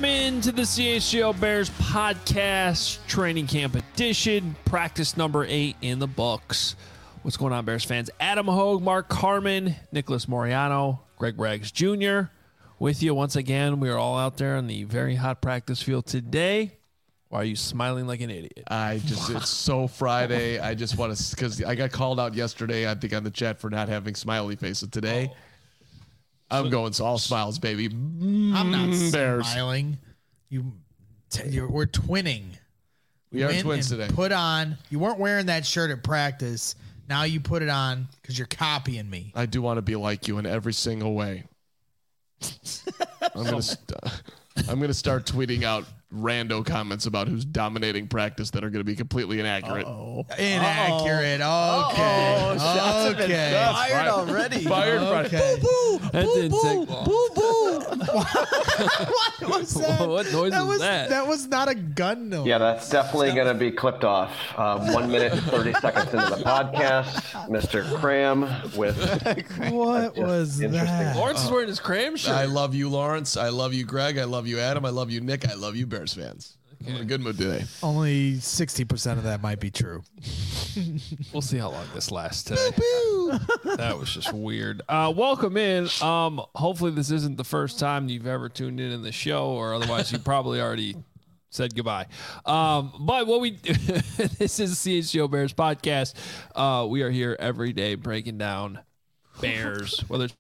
into the CHGO Bears podcast, training camp edition, practice number 8 in the books. What's going on, Bears fans? Adam Hogue, Mark Carman, Nicholas Moriano, Greg Braggs Jr. with you once again. We are all out there on the very hot practice field today. Why are you smiling like an idiot? It's so Friday. I just want to, because I got called out yesterday, I think, on the chat for not having smiley faces today. I'm going all smiles, baby. I'm not Bears. smiling. We're twinning. We are twins today. Put on. You weren't wearing that shirt at practice. Now you put it on because you're copying me. I do want to be like you in every single way. I'm gonna start tweeting out rando comments about who's dominating practice that are going to be completely inaccurate. Inaccurate. Okay. Okay. Fired already. Fired. Okay. Boo, boo. That didn't take long. Boo, boo. What was that? What noise was that? That was not a gun noise. Yeah, that's definitely going to be clipped off. 1 minute and 30 seconds into the podcast, Mr. Cram with What was that? Lawrence is wearing his cram shirt. I love you, Lawrence. I love you, Greg. I love you, Adam. I love you, Nick. I love you, Bears fans. I'm in a good mood today. Only 60% of that might be true. We'll see how long this lasts today. That was just weird. Welcome in. Hopefully this isn't the first time you've ever tuned in the show, or otherwise you probably already said goodbye. But what we do, this is CHGO Bears podcast. We are here every day breaking down Bears, whether it's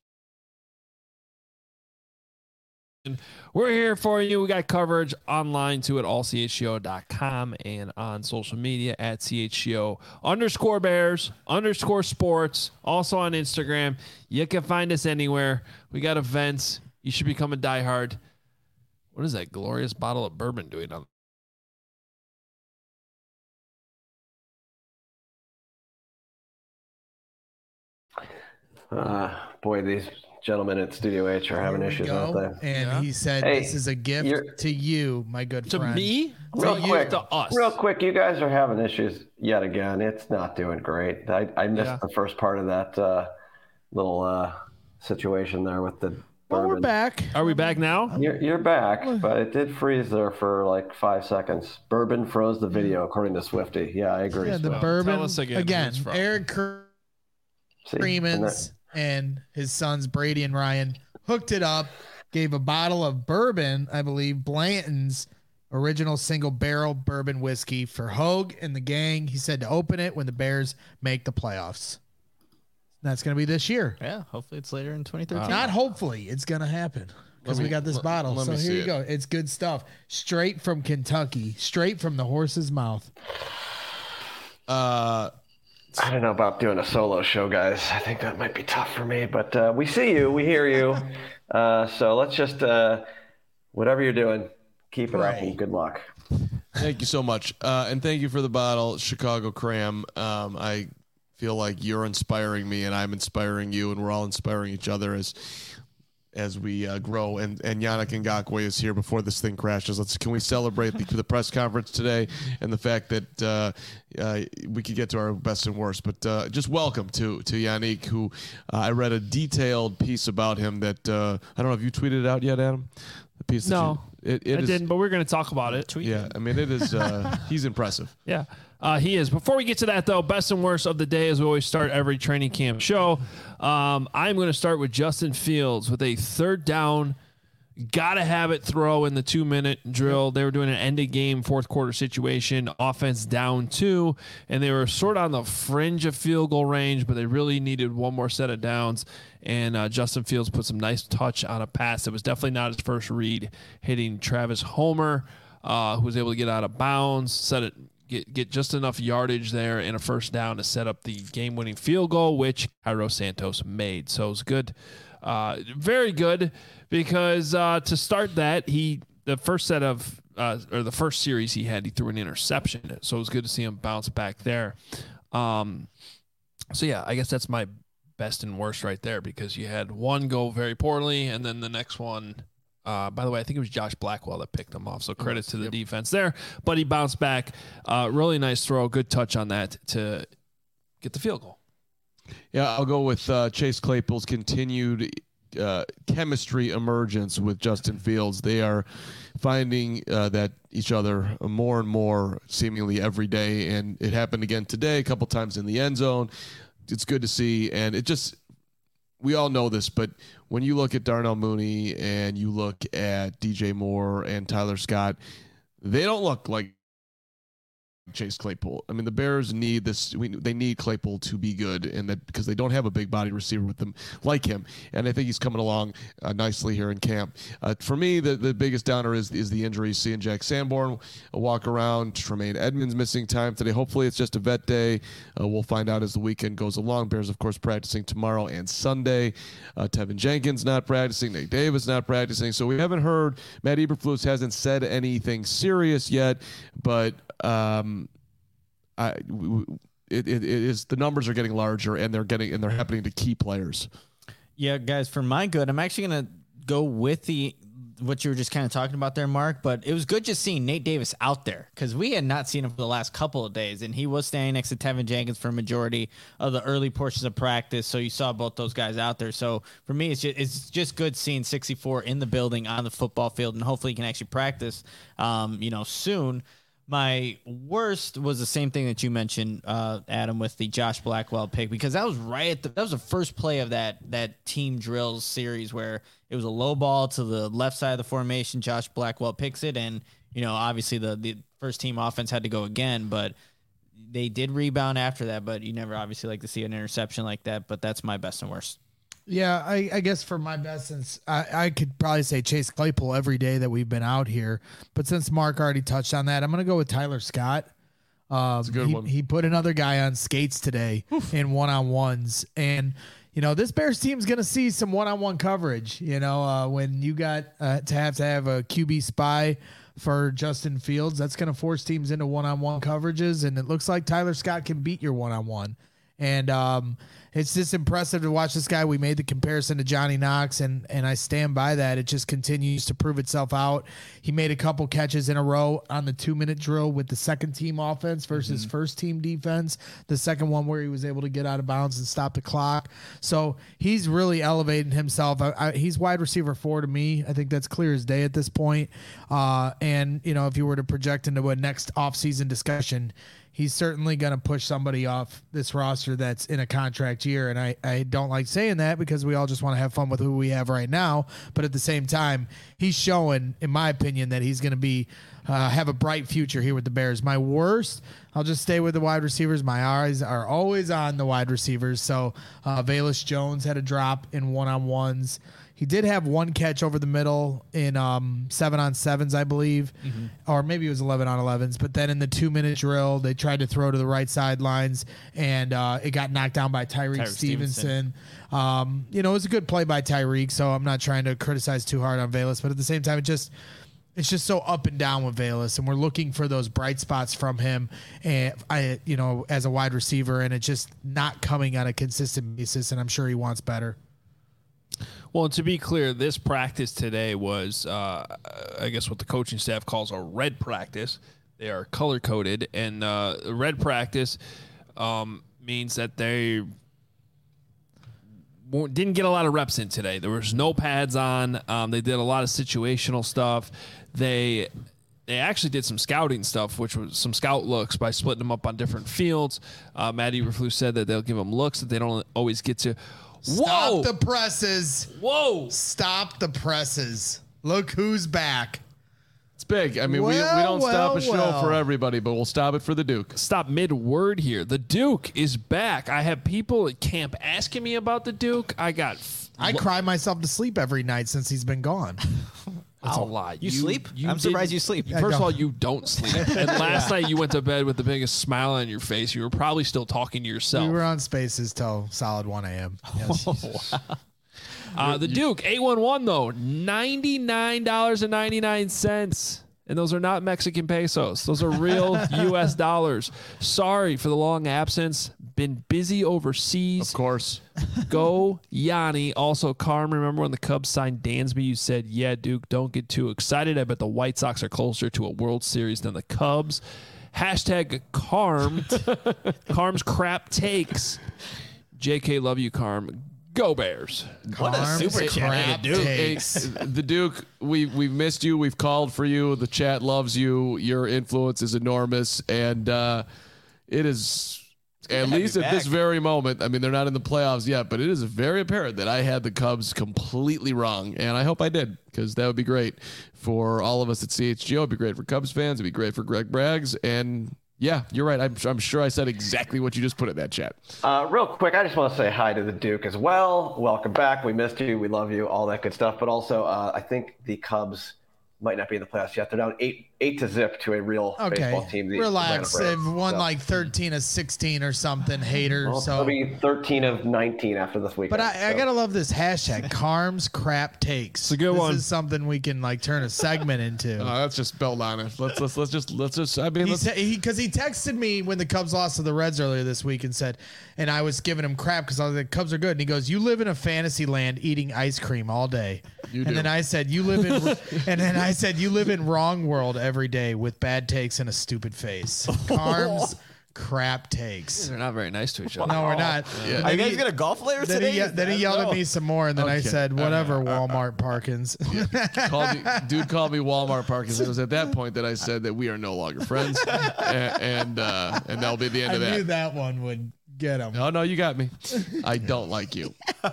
we're here for you. We got coverage online too at allchgo.com and on social media at CHGO_Bears_sports. Also on Instagram. You can find us anywhere. We got events. You should become a diehard. What is that glorious bottle of bourbon doing on? boy, these gentlemen at Studio H are having issues, aren't they? And he said, Hey, this is a gift to you, my good To friend. me? Real quick, to us. real quick, you guys are having issues yet again. It's not doing great. I missed the first part of that little situation there with the Well, bourbon. we're back. Are we back now? You're back, but it did freeze there for like 5 seconds. Bourbon froze the video, according to Swifty. Yeah, I agree. Yeah, the Swift. bourbon. Tell us again who it's from. Eric See, Freeman's and his sons, Brady and Ryan, hooked it up, gave a bottle of bourbon, I believe, Blanton's original single barrel bourbon whiskey for Hogue and the gang. He said to open it when the Bears make the playoffs. That's going to be this year. Yeah, hopefully it's later in 2013. Not hopefully. It's going to happen because we got this bottle. let So me here see you it. go. It's good stuff. Straight from Kentucky. Straight from the horse's mouth. I don't know about doing a solo show, guys. I think that might be tough for me, but we see you, we hear you. So let's just, whatever you're doing, keep it up and good luck. Thank you so much. And thank you for the bottle, Chicago Cram. I feel like you're inspiring me and I'm inspiring you, and we're all inspiring each other as we grow. And Yannick Ngakoue is here before this thing crashes. Can we celebrate the press conference today and the fact that we could get to our best and worst. But just welcome to Yannick, who I read a detailed piece about him that I don't know if you tweeted it out yet, Adam. The piece. No, I didn't, but we're going to talk about it. Yeah, I mean, it is. He's impressive. Yeah, he is. Before we get to that, though, best and worst of the day, as we always start every training camp show, I'm going to start with Justin Fields with a third down. Gotta have it throw in the 2-minute drill. They were doing an end-of-game fourth-quarter situation, offense down 2, and they were sort of on the fringe of field goal range, but they really needed one more set of downs, and Justin Fields put some nice touch on a pass. It was definitely not his first read, hitting Travis Homer, who was able to get out of bounds, get just enough yardage there and a first down to set up the game-winning field goal, which Cairo Santos made. So it was good. Very good, because to start that, the first series he threw an interception. So it was good to see him bounce back there. So yeah, I guess that's my best and worst right there, because you had one go very poorly, and then the next one, by the way, I think it was Josh Blackwell that picked him off. So credit to the defense there, but he bounced back. Really nice throw, good touch on that to get the field goal. Yeah, I'll go with Chase Claypool's continued chemistry emergence with Justin Fields. They are finding that each other more and more seemingly every day, and it happened again today, a couple times in the end zone. It's good to see, and it just we all know this, but when you look at Darnell Mooney and you look at DJ Moore and Tyler Scott, they don't look like Chase Claypool. I mean, the Bears need this. They need Claypool to be good, and that because they don't have a big body receiver with them like him. And I think he's coming along nicely here in camp. For me, the biggest downer is the injury. Seeing Jack Sanborn walk around, Tremaine Edmonds missing time today. Hopefully, it's just a vet day. We'll find out as the weekend goes along. Bears, of course, practicing tomorrow and Sunday. Tevin Jenkins not practicing. Nate Davis not practicing. So we haven't heard. Matt Eberflus hasn't said anything serious yet, but. It is the numbers are getting larger and they're happening to key players. Yeah, guys, for my good, I'm actually gonna go with what you were just kind of talking about there, Mark. But it was good just seeing Nate Davis out there because we had not seen him for the last couple of days, and he was standing next to Tevin Jenkins for a majority of the early portions of practice. So you saw both those guys out there. So for me, it's just good seeing 64 in the building on the football field, and hopefully he can actually practice, soon. My worst was the same thing that you mentioned, Adam, with the Josh Blackwell pick, because that was that was the first play of that team drills series where it was a low ball to the left side of the formation. Josh Blackwell picks it, and obviously the first team offense had to go again, but they did rebound after that. But you never obviously like to see an interception like that. But that's my best and worst. Yeah, I guess for my best, since I could probably say Chase Claypool every day that we've been out here, but since Mark already touched on that, I'm going to go with Tyler Scott. That's a good one. He put another guy on skates today in one-on-ones, and this Bears team's going to see some one-on-one coverage. When you got to have a QB spy for Justin Fields, that's going to force teams into one-on-one coverages, and it looks like Tyler Scott can beat your one-on-one. And it's just impressive to watch this guy. We made the comparison to Johnny Knox, and I stand by that. It just continues to prove itself out. He made a couple catches in a row on the 2-minute drill with the second-team offense versus first-team defense. The second one where he was able to get out of bounds and stop the clock. So he's really elevating himself. He's wide receiver 4 to me. I think that's clear as day at this point. And if you were to project into a next offseason discussion, he's certainly going to push somebody off this roster that's in a contract year. And I don't like saying that because we all just want to have fun with who we have right now. But at the same time, he's showing, in my opinion, that he's going to be have a bright future here with the Bears. My worst, I'll just stay with the wide receivers. My eyes are always on the wide receivers. So Velus Jones had a drop in one-on-ones. He did have one catch over the middle in 7-on-7s, I believe, or maybe it was 11-on-11s. But then in the 2-minute drill, they tried to throw to the right sidelines, and it got knocked down by Tyreek Stevenson. It was a good play by Tyreek, so I'm not trying to criticize too hard on Velus. But at the same time, it's just so up and down with Velus, and we're looking for those bright spots from him, and as a wide receiver, and it's just not coming on a consistent basis. And I'm sure he wants better. Well, and to be clear, this practice today was, I guess, what the coaching staff calls a red practice. They are color-coded, and red practice means that they didn't get a lot of reps in today. There was no pads on. They did a lot of situational stuff. They actually did some scouting stuff, which was some scout looks by splitting them up on different fields. Matt Eberflus said that they'll give them looks that they don't always get to. Stop the presses. Whoa. Stop the presses. Look who's back. It's big. I mean, we don't stop a show for everybody, but we'll stop it for the Duke. Stop mid-word here. The Duke is back. I have people at camp asking me about the Duke. I cry myself to sleep every night since he's been gone. That's a lot. You sleep? I'm surprised you sleep. First of all, you don't sleep. And last night you went to bed with the biggest smile on your face. You were probably still talking to yourself. We were on Spaces till solid 1 a.m. Yes. The Duke, 811 though, $99.99. And those are not Mexican pesos. Those are real U.S. dollars. Sorry for the long absence. Been busy overseas. Of course. Go Yanni. Also, Carm, remember when the Cubs signed Dansby, you said, yeah, Duke, don't get too excited. I bet the White Sox are closer to a World Series than the Cubs. Hashtag Carm. Carm's crap takes. JK, love you, Carm. Go Bears. What a Carms super chat. crap Dude. takes. The Duke, we've missed you. We've called for you. The chat loves you. Your influence is enormous, and it is at least at this very moment. I mean, they're not in the playoffs yet, but it is very apparent that I had the Cubs completely wrong, and I hope I did, because that would be great for all of us at CHGO. It'd be great for Cubs fans. It'd be great for Greg Braggs, and yeah, you're right. I'm sure I said exactly what you just put in that chat. Real quick, I just want to say hi to the Duke as well. Welcome back. We missed you. We love you. All that good stuff. But also, I think the Cubs might not be in the playoffs yet. They're down 8-0 to a real baseball team. The Relax. Atlanta They've Braves. won So, like 13 of 16 or something, hater. well, So, it'll be 13 of 19 after this weekend. but I gotta love this hashtag, Carms crap takes. It's a good one. This is something we can like turn a segment into. Let's just build on it. Let's just. I mean, Because he texted me when the Cubs lost to the Reds earlier this week and said, and I was giving him crap because I was like, Cubs are good. And he goes, you live in a fantasy land eating ice cream all day. You and do. then I said, you live in wrong world every day with bad takes and a stupid face. Carms crap takes. They're not very nice to each other. No, we're not. Yeah. Are you guys going to golf later Then today? he yelled at me some more, and then I Okay. said, whatever, Walmart Parkins. Dude called me Walmart Parkins. It was at that point that I said that we are no longer friends, and that'll be the end I of knew that. that one would get him. Oh no, you got me. I don't like you.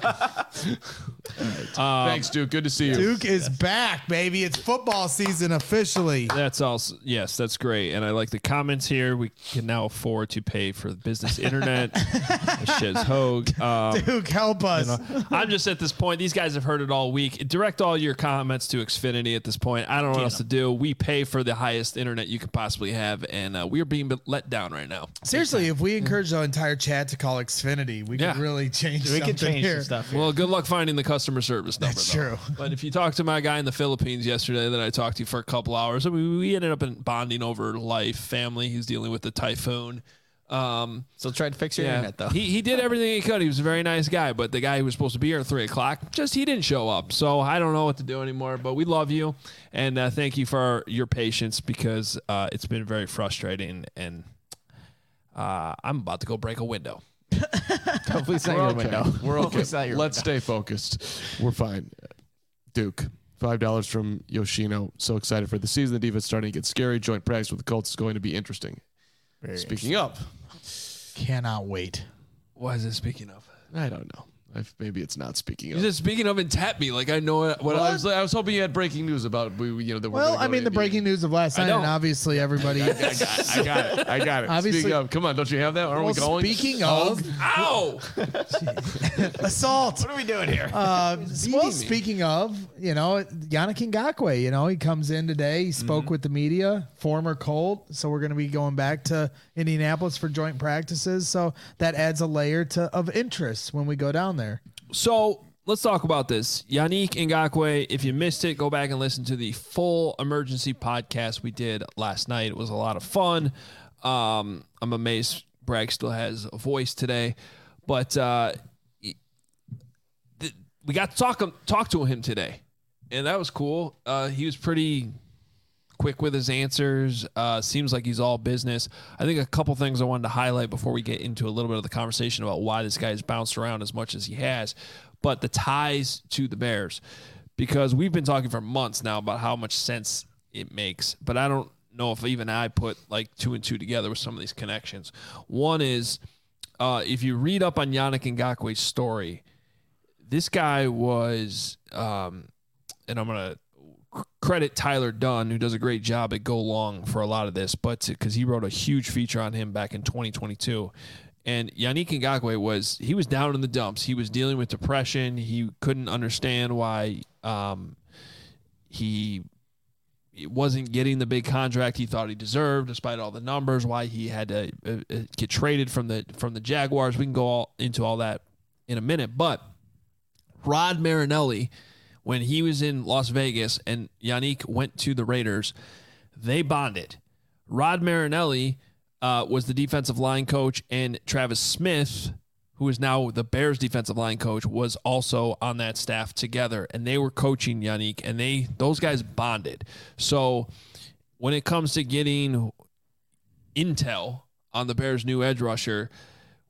Thanks, Duke. Good to see you. Duke is back, baby. It's football season officially. That's also, yes, that's great. And I like the comments here. We can now afford to pay for the business internet. Shiz Hogue. Duke, help us. I'm just at this point. These guys have heard it all week. Direct all your comments to Xfinity at this point. I don't know what else to do. We pay for the highest internet you could possibly have, and we are being let down right now. Seriously, if we encourage the entire chat to call Xfinity, we Yeah. could really change We something can change here. some stuff. here. Well, good luck finding the customer service number. That's though. true. But if you talk to my guy in the Philippines yesterday that I talked to for a couple hours, I mean, we ended up bonding over life, family. He's dealing with the typhoon. So try to fix your internet, though. He did everything he could. He was a very nice guy, but the guy who was supposed to be here at 3:00, he didn't show up. So I don't know what to do anymore, but we love you. And thank you for your patience, because it's been very frustrating, and I'm about to go break a window. Hopefully it's not We're your okay. window. We're Hopefully okay. it's not your Let's window. stay focused. We're fine. Duke, $5 from Yoshino. So excited for the season. The defense starting to get scary. Joint practice with the Colts is going to be interesting. Speaking of, Cannot wait. What is it speaking of? I don't know. Maybe it's not speaking of. You said speaking of and tap me like I know what Well, I was hoping you had breaking news about that. We're Well, gonna go I mean, to the Indy. breaking news of last night, don't. and obviously everybody. I got it. Obviously- Speaking of, come on, don't you have that? Aren't we Well, going? speaking of Ow! assault, What are we doing here? well, speaking of, Yannick Ngakoue, he comes in today. He spoke with the media, former Colt. So we're going to be going back to Indianapolis for joint practices. So that adds a layer of interest when we go down there. So let's talk about this. Yannick Ngakoue, if you missed it, go back and listen to the full emergency podcast we did last night. It was a lot of fun. I'm amazed Bragg still has a voice today. But we got to talk to him today, and that was cool. He was pretty quick with his answers. Seems like he's all business. I think a couple things I wanted to highlight before we get into a little bit of the conversation about why this guy's bounced around as much as he has, but the ties to the Bears, because we've been talking for months now about how much sense it makes, but I don't know if even I put like 2 and 2 together with some of these connections. One is if you read up on Yannick Ngakoue's story, this guy was, and I'm going to credit Tyler Dunn, who does a great job at Go Long for a lot of this, but because he wrote a huge feature on him back in 2022. And Yannick Ngakoue was down in the dumps. He was dealing with depression. He couldn't understand why he wasn't getting the big contract he thought he deserved, despite all the numbers. Why he had to get traded from the Jaguars. We can go into all that in a minute. But Rod Marinelli, when he was in Las Vegas and Yannick went to the Raiders, they bonded. Rod Marinelli was the defensive line coach, and Travis Smith, who is now the Bears defensive line coach, was also on that staff together, and they were coaching Yannick, and those guys bonded. So when it comes to getting intel on the Bears' new edge rusher,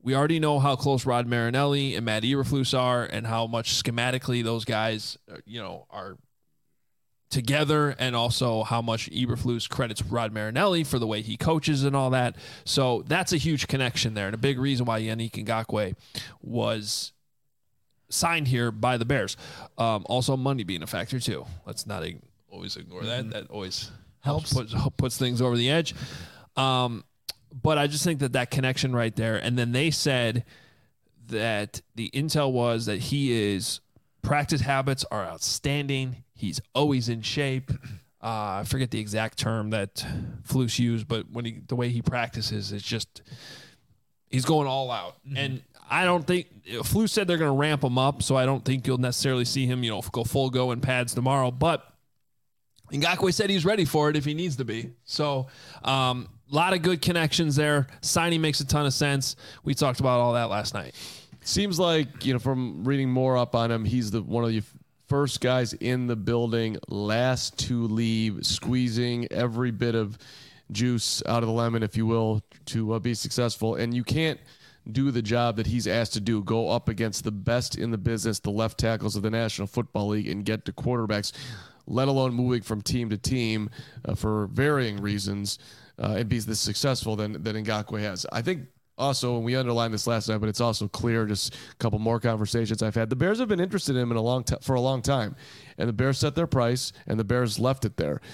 we already know how close Rod Marinelli and Matt Eberflus are, and how much schematically those guys, are together, and also how much Eberflus credits Rod Marinelli for the way he coaches and all that. So that's a huge connection there, and a big reason why Yannick Ngakoue was signed here by the Bears. Also, money being a factor too. Let's not always ignore that. That always helps puts things over the edge. But I just think that connection right there. And then they said that the intel was that practice habits are outstanding. He's always in shape. I forget the exact term that Flus used, but the way he practices is just, he's going all out. Mm-hmm. And I don't think Flus said they're going to ramp him up, so I don't think you'll necessarily see him, go full go in pads tomorrow. But Ngakoue said he's ready for it if he needs to be. So, a lot of good connections there. Signing makes a ton of sense. We talked about all that last night. Seems like, from reading more up on him, he's one of the first guys in the building, last to leave, squeezing every bit of juice out of the lemon, if you will, to be successful. And you can't do the job that he's asked to do, go up against the best in the business, the left tackles of the National Football League, and get to quarterbacks, let alone moving from team to team for varying reasons, and be this successful than Ngakoue has. I think also, and we underlined this last night, but it's also clear, just a couple more conversations I've had, the Bears have been interested in him for a long time, and the Bears set their price, and the Bears left it there.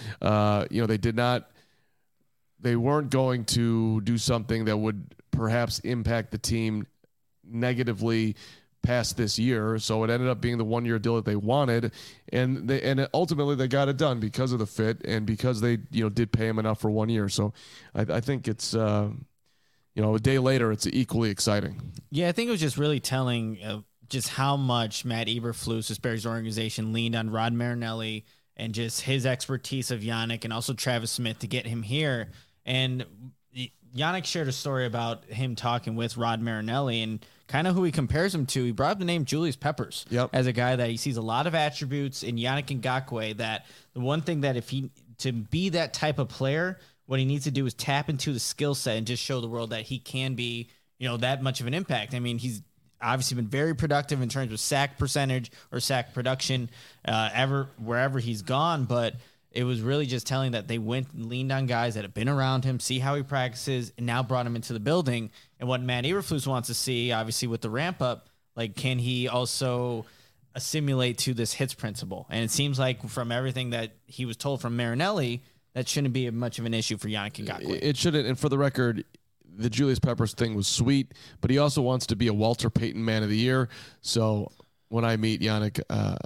They weren't going to do something that would perhaps impact the team negatively past this year, so it ended up being the 1-year deal that they wanted, and ultimately they got it done because of the fit and because they did pay him enough for 1 year. So I think it's a day later it's equally exciting. Yeah, I think it was just really telling just how much Matt Eberflus, this Bears organization, leaned on Rod Marinelli and just his expertise of Yannick and also Travis Smith to get him here. And Yannick shared a story about him talking with Rod Marinelli and kind of who he compares him to. He brought up the name Julius Peppers as a guy that he sees a lot of attributes in Yannick Ngakoue, that the one thing that to be that type of player, what he needs to do is tap into the skill set and just show the world that he can be, that much of an impact. I mean, he's obviously been very productive in terms of sack percentage or sack production wherever he's gone, but it was really just telling that they went and leaned on guys that have been around him, see how he practices, and now brought him into the building. And what Matt Eberflus wants to see, obviously with the ramp up, like, can he also assimilate to this hits principle? And it seems like from everything that he was told from Marinelli, that shouldn't be much of an issue for Yannick Ngakoue. It shouldn't. And for the record, the Julius Peppers thing was sweet, but he also wants to be a Walter Payton Man of the Year. So when I meet Yannick,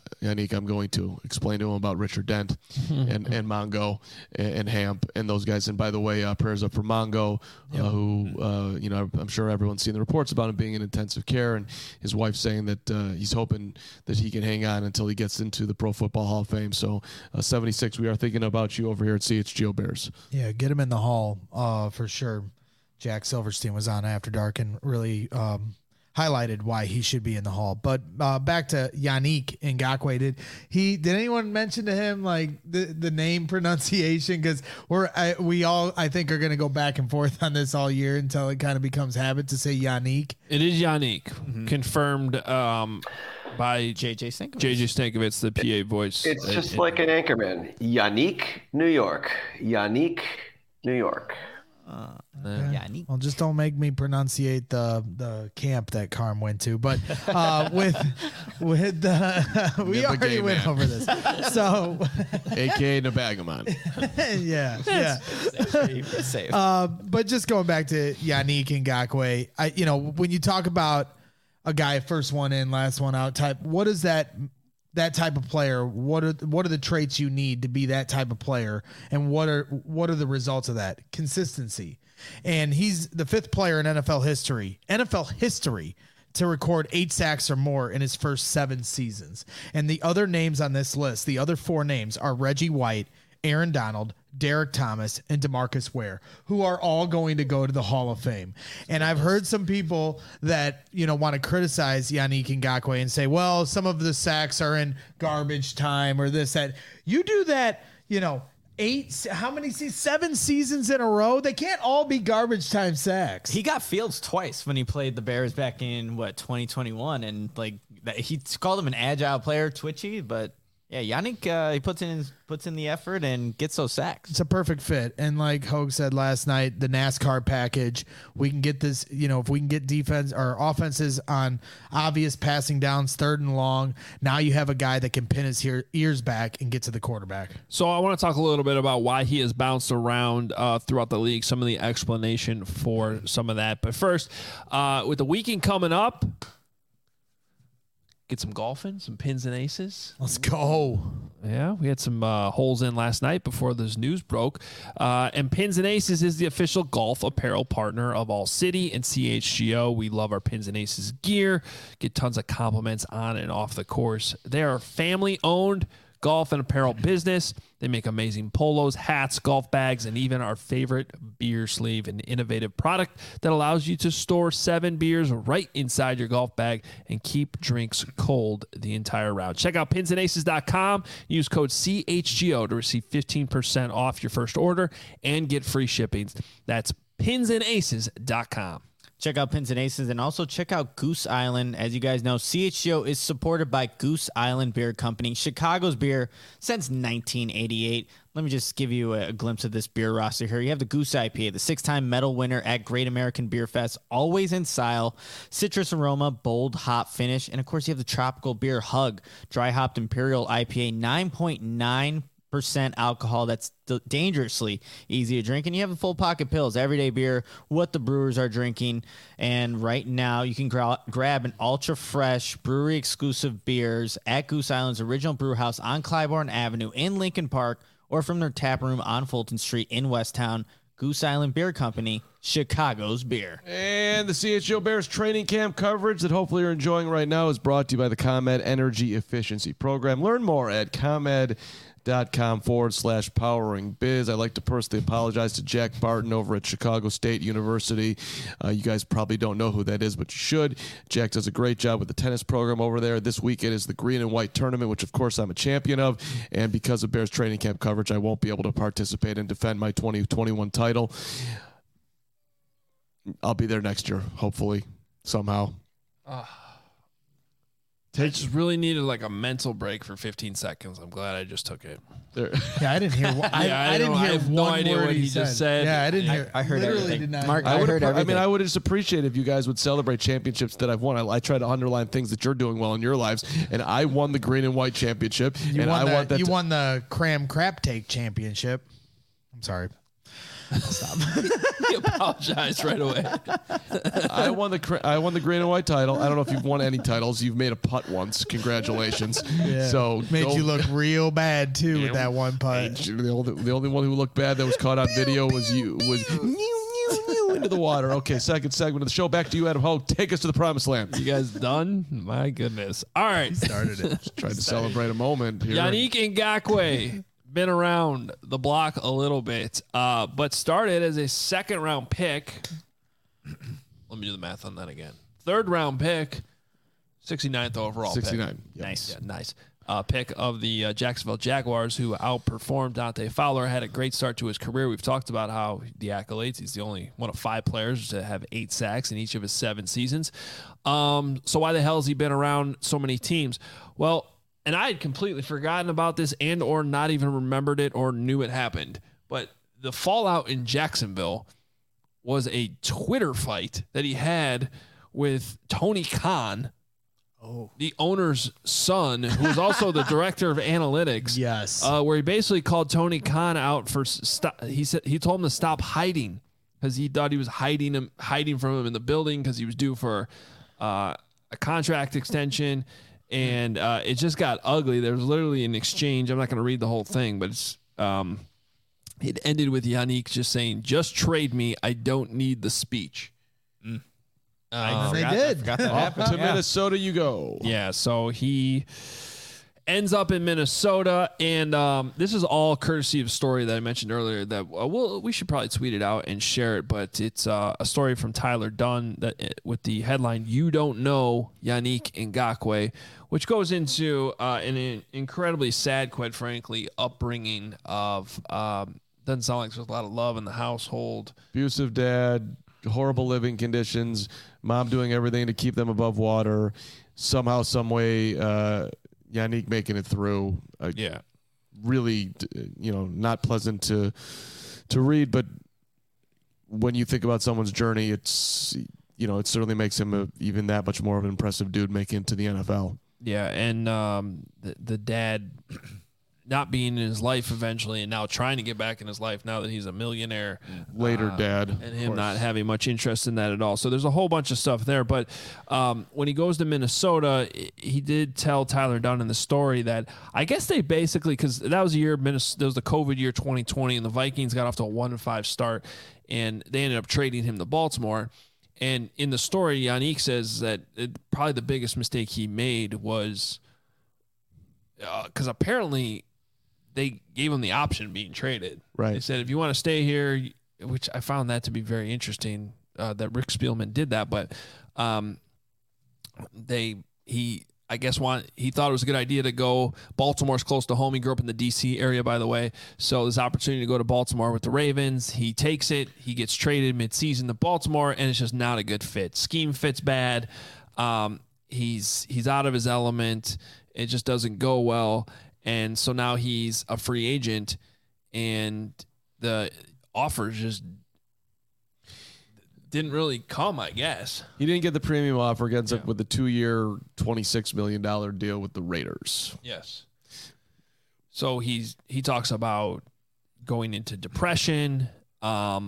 I'm going to explain to him about Richard Dent and Mongo and Hamp and those guys. And by the way, prayers up for Mongo, who I'm sure everyone's seen the reports about him being in intensive care, and his wife saying that he's hoping that he can hang on until he gets into the Pro Football Hall of Fame. So 76, we are thinking about you over here at CHGO Bears. Yeah, get him in the Hall for sure. Jack Silverstein was on After Dark and really highlighted why he should be in the Hall. But back to Yannick Ngakoue, did anyone mention to him like the name pronunciation? Because we all I think are going to go back and forth on this all year until it kind of becomes habit to say Yannick. It is Yannick, confirmed by JJ Stankovitz. JJ Stankovitz, the PA voice. It's just like an anchorman. Yannick, New York. Yannick, New York. Yannick. Well, just don't make me pronunciate the camp that Carm went to. But with we already went over this. So, AKA Nabagaman. yeah. Safe. But just going back to Yannick Ngakoue, when you talk about a guy first one in, last one out type, what is that type of player? What are the traits you need to be that type of player, and what are the results of that? Consistency. And he's the 5th player in NFL history to record 8 sacks or more in his first 7 seasons. And the other names on this list, the other 4 names, are Reggie White, Aaron Donald, Derek Thomas, and DeMarcus Ware, who are all going to go to the Hall of Fame. And I've heard some people that, want to criticize Yannick Ngakoue and say, well, some of the sacks are in garbage time or this, that. You do that, How many seasons? 7 seasons in a row. They can't all be garbage time sacks. He got Fields twice when he played the Bears back in 2021, and like he called him an agile player, twitchy, but yeah, Yannick he puts in the effort and gets those sacks. It's a perfect fit, and like Hogue said last night, the NASCAR package. We can get this. If we can get defense or offenses on obvious passing downs, 3rd and long. Now you have a guy that can pin his ears back and get to the quarterback. So I want to talk a little bit about why he has bounced around throughout the league. Some of the explanation for some of that, but first, with the weekend coming up. Get some golfing, some pins and aces. Let's go. Yeah, we had some holes in last night before this news broke. And Pins and Aces is the official golf apparel partner of All City and CHGO. We love our Pins and Aces gear. Get tons of compliments on and off the course. They are family-owned golf and apparel business. They make amazing polos, hats, golf bags, and even our favorite beer sleeve, an innovative product that allows you to store 7 beers right inside your golf bag and keep drinks cold the entire round. Check out pinsandaces.com. Use code CHGO to receive 15% off your first order and get free shipping. That's pinsandaces.com. Check out Pins and Aces and also check out Goose Island. As you guys know, CHGO is supported by Goose Island Beer Company, Chicago's beer since 1988. Let me just give you a glimpse of this beer roster here. You have the Goose IPA, the 6-time medal winner at Great American Beer Fest, always in style, citrus aroma, bold hop finish, and of course you have the tropical beer Hug, dry hopped Imperial IPA, 9.9% alcohol. That's dangerously easy to drink. And you have the full pocket pills, everyday beer, what the brewers are drinking. And right now you can grab an ultra fresh brewery exclusive beers at Goose Island's original brew house on Clybourne Avenue in Lincoln Park, or from their tap room on Fulton Street in Westtown. Goose Island Beer Company, Chicago's beer. And the CHGO Bears training camp coverage that hopefully you're enjoying right now is brought to you by the ComEd Energy Efficiency Program. Learn more at ComEd.com/powering biz. I'd like to personally apologize to Jack Barton over at Chicago State University. You guys probably don't know who that is, but you should. Jack does a great job with the tennis program over there. This weekend is the Green and White Tournament, which of course I'm a champion of. And because of Bears training camp coverage, I won't be able to participate and defend my 2021 title. I'll be there next year, hopefully, somehow. I just really needed like a mental break for 15 seconds. I'm glad I just took it. Yeah, I didn't hear. I didn't hear have one no idea word what he just said. Yeah, I didn't hear. I heard literally everything. Did not Mark, hear. I heard everything. I would just appreciate if you guys would celebrate championships that I've won. I try to underline things that you're doing well in your lives, and I won the Green and White Championship. You and won I want that. You won the Cram Crap Take Championship. I'm sorry. Stop. He apologized right away. I won the Green and White title. I don't know if you've won any titles. You've made a putt once. Congratulations. Yeah. So made you look real bad too with that one putt. The only one who looked bad that was caught on video was you. Into the water. Okay, second segment of the show. Back to you, Adam Hogue. Take us to the promised land. You guys done? My goodness. All right. Started it. Just tried to celebrate a moment here. Yannick Ngakoue. Been around the block a little bit, but started as a 2nd-round pick. Let me do the math on that again. 3rd-round pick, 69th overall 69. pick. Yep. Nice. Yeah, nice. Pick of the Jacksonville Jaguars, who outperformed Dante Fowler, had a great start to his career. We've talked about how the accolades. He's the only one of 5 players to have 8 sacks in each of his 7 seasons. So why the hell has he been around so many teams? Well, and I had completely forgotten about this and or not even remembered it or knew it happened. But the fallout in Jacksonville was a Twitter fight that he had with Tony Khan, the owner's son, who is also the director of analytics. Yes. Where he basically called Tony Khan out for he told him to stop hiding because he thought he was hiding from him in the building because he was due for a contract extension. And it just got ugly. There was literally an exchange. I'm not going to read the whole thing, but it ended with Yannick just saying, "Just trade me. I don't need the speech." They did. I forgot that happened. To Minnesota you go. Yeah, so he ends up in Minnesota, and this is all courtesy of a story that I mentioned earlier that we should probably tweet it out and share it, but it's a story from Tyler Dunn that with the headline, "You Don't Know Yannick Ngakoue," which goes into an incredibly sad, quite frankly, upbringing of doesn't sound like there's a lot of love in the household. Abusive dad, horrible living conditions, mom doing everything to keep them above water. Somehow, some way, Yannick making it through. Really, not pleasant to read. But when you think about someone's journey, it's it certainly makes him even that much more of an impressive dude making it to the NFL. Yeah, and the dad not being in his life eventually, and now trying to get back in his life now that he's a millionaire. Later, dad. And him not having much interest in that at all. So there's a whole bunch of stuff there. But when he goes to Minnesota, he did tell Tyler Dunn in the story that I guess they basically, because that was the year, that was the COVID year 2020, and the Vikings got off to a 1-5 start, and they ended up trading him to Baltimore. And in the story, Yannick says that probably the biggest mistake he made was because apparently they gave him the option of being traded. Right. They said, if you want to stay here, which I found that to be very interesting, that Rick Spielman did that, but he thought it was a good idea to go. Baltimore's close to home. He grew up in the D.C. area, by the way. So there's opportunity to go to Baltimore with the Ravens. He takes it. He gets traded midseason to Baltimore, and it's just not a good fit. Scheme fits bad. He's out of his element. It just doesn't go well. And so now he's a free agent, and the offers just didn't really come, I guess. He didn't get the premium offer, gets up with a 2-year, $26 million deal with the Raiders. Yes. So he talks about going into depression, all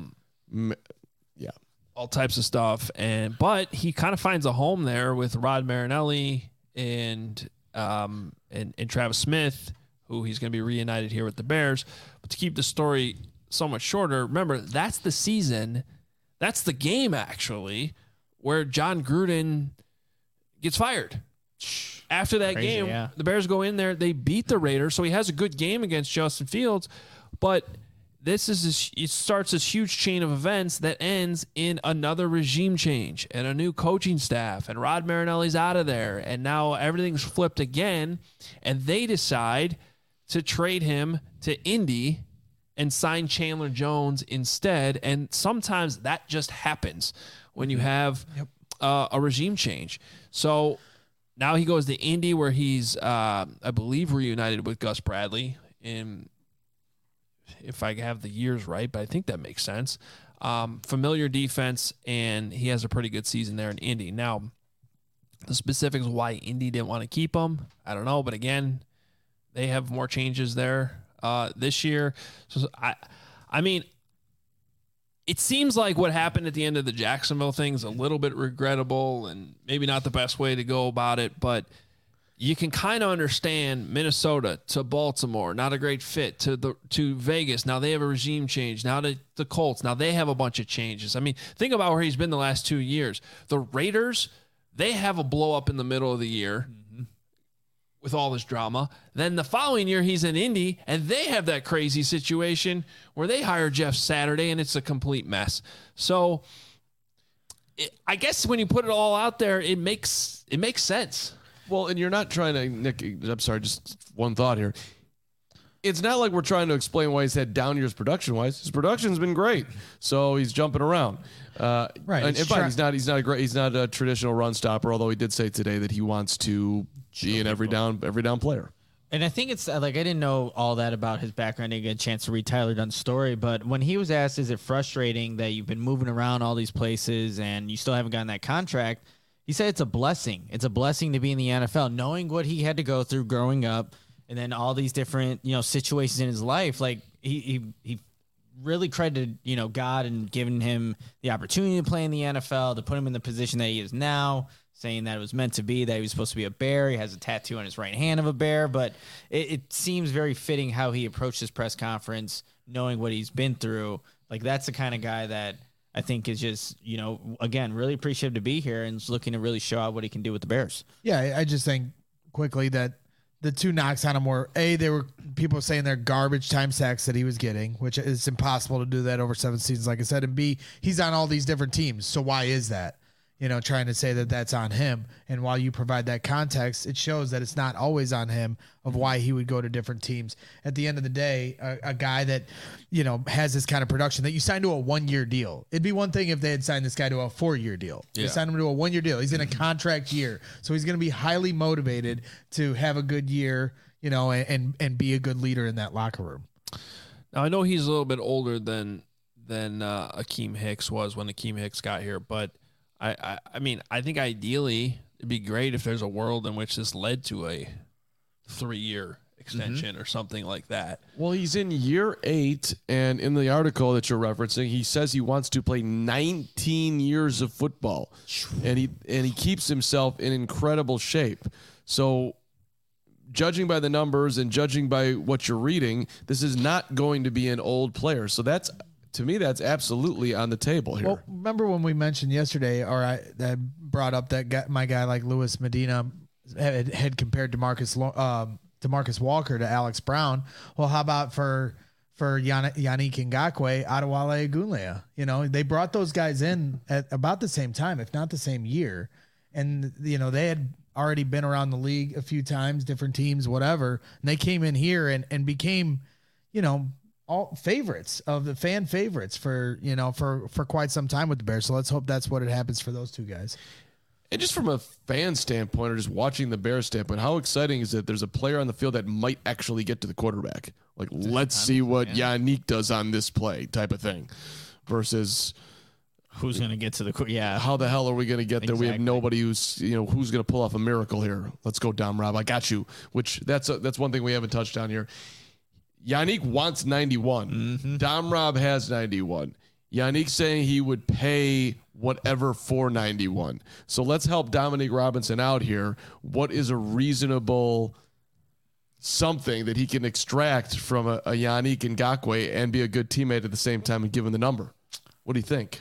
types of stuff, but he kind of finds a home there with Rod Marinelli and Travis Smith, who he's going to be reunited here with the Bears. But to keep the story so much shorter, remember, that's the season, that's the game, actually, where John Gruden gets fired. After that game, the Bears go in there, they beat the Raiders, so he has a good game against Justin Fields, but it starts this huge chain of events that ends in another regime change and a new coaching staff, and Rod Marinelli's out of there, and now everything's flipped again, and they decide to trade him to Indy and sign Chandler Jones instead, and sometimes that just happens when you have a regime change. So now he goes to Indy, where he's, I believe, reunited with Gus Bradley in, if I have the years right, but I think that makes sense. Familiar defense, and he has a pretty good season there in Indy. Now, the specifics of why Indy didn't want to keep him, I don't know. But again, they have more changes there this year. So I mean, it seems like what happened at the end of the Jacksonville thing is a little bit regrettable and maybe not the best way to go about it, but you can kind of understand Minnesota to Baltimore, not a great fit, to Vegas. Now they have a regime change. Now to the Colts. Now they have a bunch of changes. I mean, think about where he's been the last 2 years. The Raiders, they have a blow up in the middle of the year with all this drama. Then the following year he's in Indy, and they have that crazy situation where they hire Jeff Saturday, and it's a complete mess. So I guess when you put it all out there, it makes sense. Well, and you're not trying to, Nick, I'm sorry, just one thought here. It's not like we're trying to explain why he's had down years production-wise. His production's been great, so he's jumping around. Right. And he's not a traditional run stopper, although he did say today that he wants to be an every down player. And I think it's like, I didn't know all that about his background. I didn't get a chance to read Tyler Dunn's story, but when he was asked, is it frustrating that you've been moving around all these places and you still haven't gotten that contract? He said it's a blessing. It's a blessing to be in the NFL, knowing what he had to go through growing up, and then all these different, situations in his life. Like he really credited, God and giving him the opportunity to play in the NFL, to put him in the position that he is now, saying that it was meant to be, that he was supposed to be a bear. He has a tattoo on his right hand of a bear, but it seems very fitting how he approached his press conference, knowing what he's been through. Like, that's the kind of guy that I think is just, again, really appreciative to be here and is looking to really show out what he can do with the Bears. Yeah, I just think quickly that the two knocks on him were they were people saying they're garbage time sacks that he was getting, which is impossible to do that over 7 seasons, like I said. And B, he's on all these different teams, so why is that? Trying to say that that's on him. And while you provide that context, it shows that it's not always on him of why he would go to different teams. At the end of the day, a guy that, has this kind of production that you signed to a 1-year deal. It'd be one thing if they had signed this guy to a 4-year deal. They signed him to a 1-year deal. He's in a contract year. So he's going to be highly motivated to have a good year, and be a good leader in that locker room. Now, I know he's a little bit older than Akeem Hicks was when Akeem Hicks got here, but I mean, I think ideally it'd be great if there's a world in which this led to a 3-year extension or something like that. Well, he's in year 8, and in the article that you're referencing, he says he wants to play 19 years of football, and he keeps himself in incredible shape. So, judging by the numbers and judging by what you're reading, this is not going to be an old player. So to me, that's absolutely on the table here. Well, remember when we mentioned yesterday, or I brought up that my guy like Luis Medina had compared Demarcus Walker to Alex Brown. Well, how about for Yannick Ngakoue, Adewale Ogunleye? They brought those guys in at about the same time, if not the same year. And, they had already been around the league a few times, different teams, whatever. And they came in here and became, all favorites of the fan favorites for quite some time with the Bears. So let's hope that's what it happens for those two guys. And just from a fan standpoint or just watching the Bears standpoint, how exciting is it there's a player on the field that might actually get to the quarterback? Like, let's see what Yannick does on this play type of thing versus who's going to get to the how the hell are we going to get there? Exactly. We have nobody who's going to pull off a miracle here. Let's go, Dom Rob. I got you. Which that's one thing we haven't touched on here. Yannick wants 91. Mm-hmm. Dom Rob has 91. Yannick saying he would pay whatever for 91. So let's help Dominique Robinson out here. What is a reasonable something that he can extract from a Yannick Ngakoue and be a good teammate at the same time and give him the number? What do you think?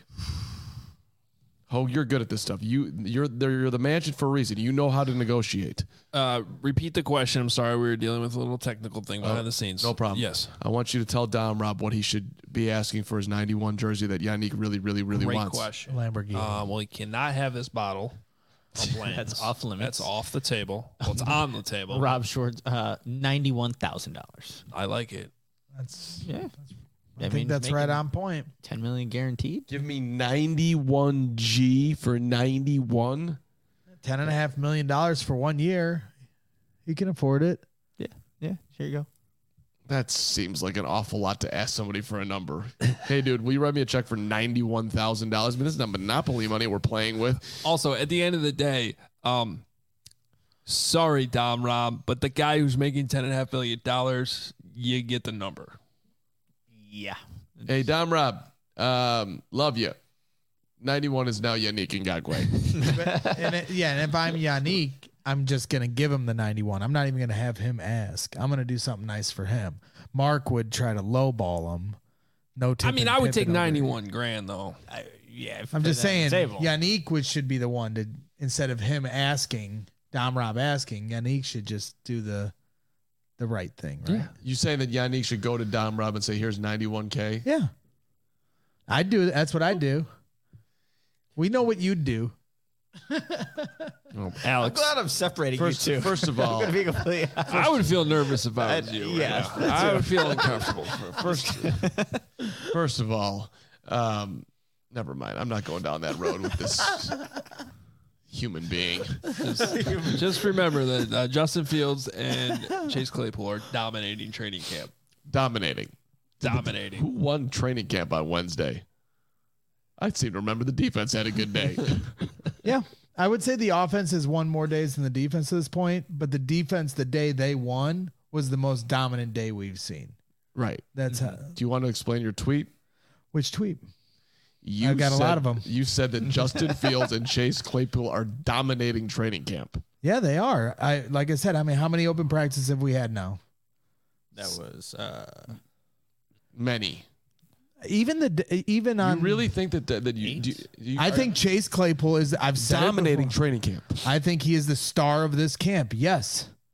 Oh, you're good at this stuff. You're the mansion for a reason. You know how to negotiate. Repeat the question. I'm sorry, we were dealing with a little technical thing behind the scenes. No problem. Yes. I want you to tell Dom Rob what he should be asking for his 91 jersey that Yannick really, really, really Great wants. question. Lamborghini. Well, he cannot have this bottle. That's off limits. That's off the table. Well, it's on the table. Rob Short, $91,000. I like it. That's I think that's right on point. 10 million guaranteed. Give me 91 G for 91. $10.5 million for 1 year. He can afford it. Yeah. Here you go. That seems like an awful lot to ask somebody for a number. Hey, dude, will you write me a check for $91,000? I mean, this is not Monopoly money we're playing with. Also, at the end of the day, sorry, Dom Rob, but the guy who's making $10.5 million, you get the number. Yeah. Hey, Dom Rob, love you. 91 is now Yannick Ngakoue. And if I'm Yannick, I'm just going to give him the 91. I'm not even going to have him ask. I'm going to do something nice for him. Mark would try to lowball him. I would take 91 grand though. I'm just saying Yannick should be the one to, instead of him asking, Dom Rob asking, Yannick should just do the right thing, right? Yeah. You saying that Yannick should go to Dom Rob and say, here's 91K? Yeah. I'd do. That's what I'd do. We know what you'd do. Alex, I'm glad I'm separating you two. First of all, I would feel nervous if I was you. Yeah, right now. I would feel uncomfortable. First of all, never mind. I'm not going down that road with this human being. Just remember that Justin Fields and Chase Claypool are dominating training camp. Dominating. Who won training camp on Wednesday? I seem to remember the defense had a good day. Yeah. I would say the offense has won more days than the defense at this point, but the defense, the day they won, was the most dominant day we've seen. Right. That's how. Do you want to explain your tweet? Which tweet? I've got a lot of them. You said that Justin Fields and Chase Claypool are dominating training camp. Yeah, they are. Like I said, I mean, how many open practices have we had now? That was many. Even on. You really think that you I think Chase Claypool is. I've said dominating it before. training camp. I think he is the star of this camp. Yes,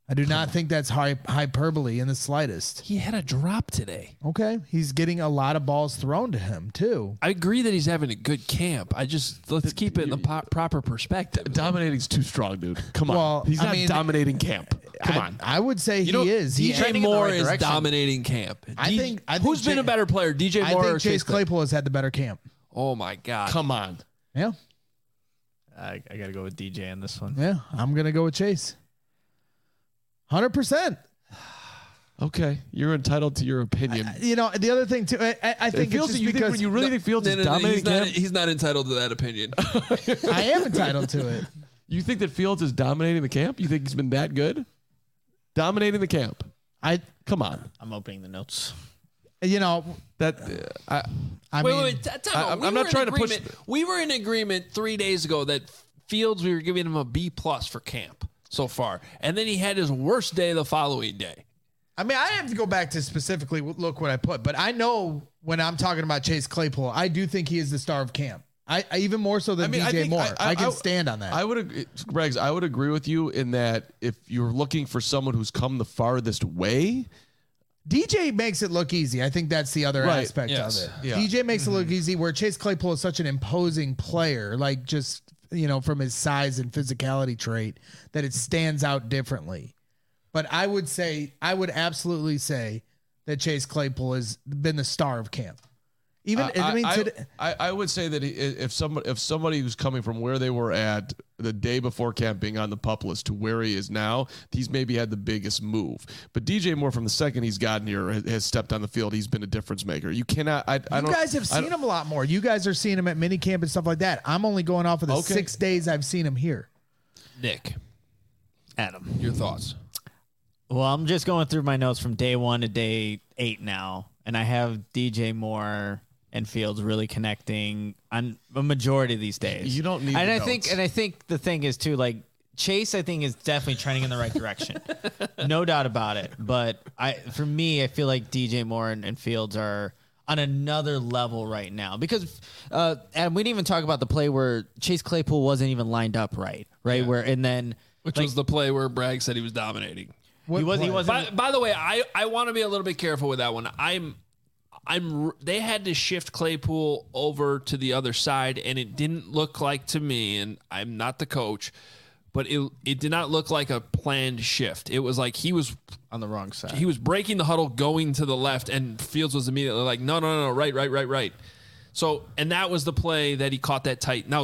I do not think that's hyperbole in the slightest. He had a drop today. Okay. He's getting a lot of balls thrown to him, too. I agree that he's having a good camp. Let's keep it in the proper perspective. Dominating's too strong, dude. Come on. Well, He's I not mean, dominating camp. Come on. I would say he is. DJ Moore is dominating camp. I think who's been a better player, DJ Moore or Chase Claypool has had the better camp. Oh, my God. Come on. Yeah. I got to go with DJ in this one. Yeah. I'm going to go with Chase. 100%. Okay, you're entitled to your opinion. The other thing too, I think Fields, it's just you because think, you really think Fields is dominating? He's not entitled to that opinion. I am entitled to it. You think that Fields is dominating the camp? You think he's been that good? Dominating the camp. Come on. I'm opening the notes. That Wait. I'm not trying to push. We were in agreement 3 days ago that Fields, we were giving him a B+ for camp so far, and then he had his worst day the following day. I mean, I have to go back to specifically look what I put, but I know when I'm talking about Chase Claypool, I do think he is the star of camp. I even more so than DJ Moore. I can stand on that. I would, Greggs, I would agree with you in that if you're looking for someone who's come the farthest way, DJ makes it look easy. I think that's the other aspect of it. Yeah. DJ makes it look easy, where Chase Claypool is such an imposing player, like just from his size and physicality trait, that it stands out differently. But I would absolutely say that Chase Claypool has been the star of camp. I would say that if somebody who's coming from where they were at the day before camp being on the PUP list to where he is now, he's maybe had the biggest move. But DJ Moore, from the second he's gotten here, has stepped on the field. He's been a difference maker. You cannot. You guys have seen him a lot more. You guys are seeing him at mini camp and stuff like that. I'm only going off of the 6 days I've seen him here. Nick, Adam, your thoughts? Well, I'm just going through my notes from day 1 to day 8 now, and I have DJ Moore and Fields really connecting on a majority of these days. You don't need. And I think the thing is too, like Chase, I think is definitely trending in the right direction, no doubt about it. But for me, I feel like DJ Moore and Fields are on another level right now because, and we didn't even talk about the play where Chase Claypool wasn't even lined up right, yeah. Which was the play where Bragg said he was dominating. He wasn't. By the way, I want to be a little bit careful with that one. They had to shift Claypool over to the other side, and it didn't look like to me, and I'm not the coach, but it did not look like a planned shift. It was like he was on the wrong side. He was breaking the huddle, going to the left, and Fields was immediately like, no, right. So, and that was the play that he caught that tight. Now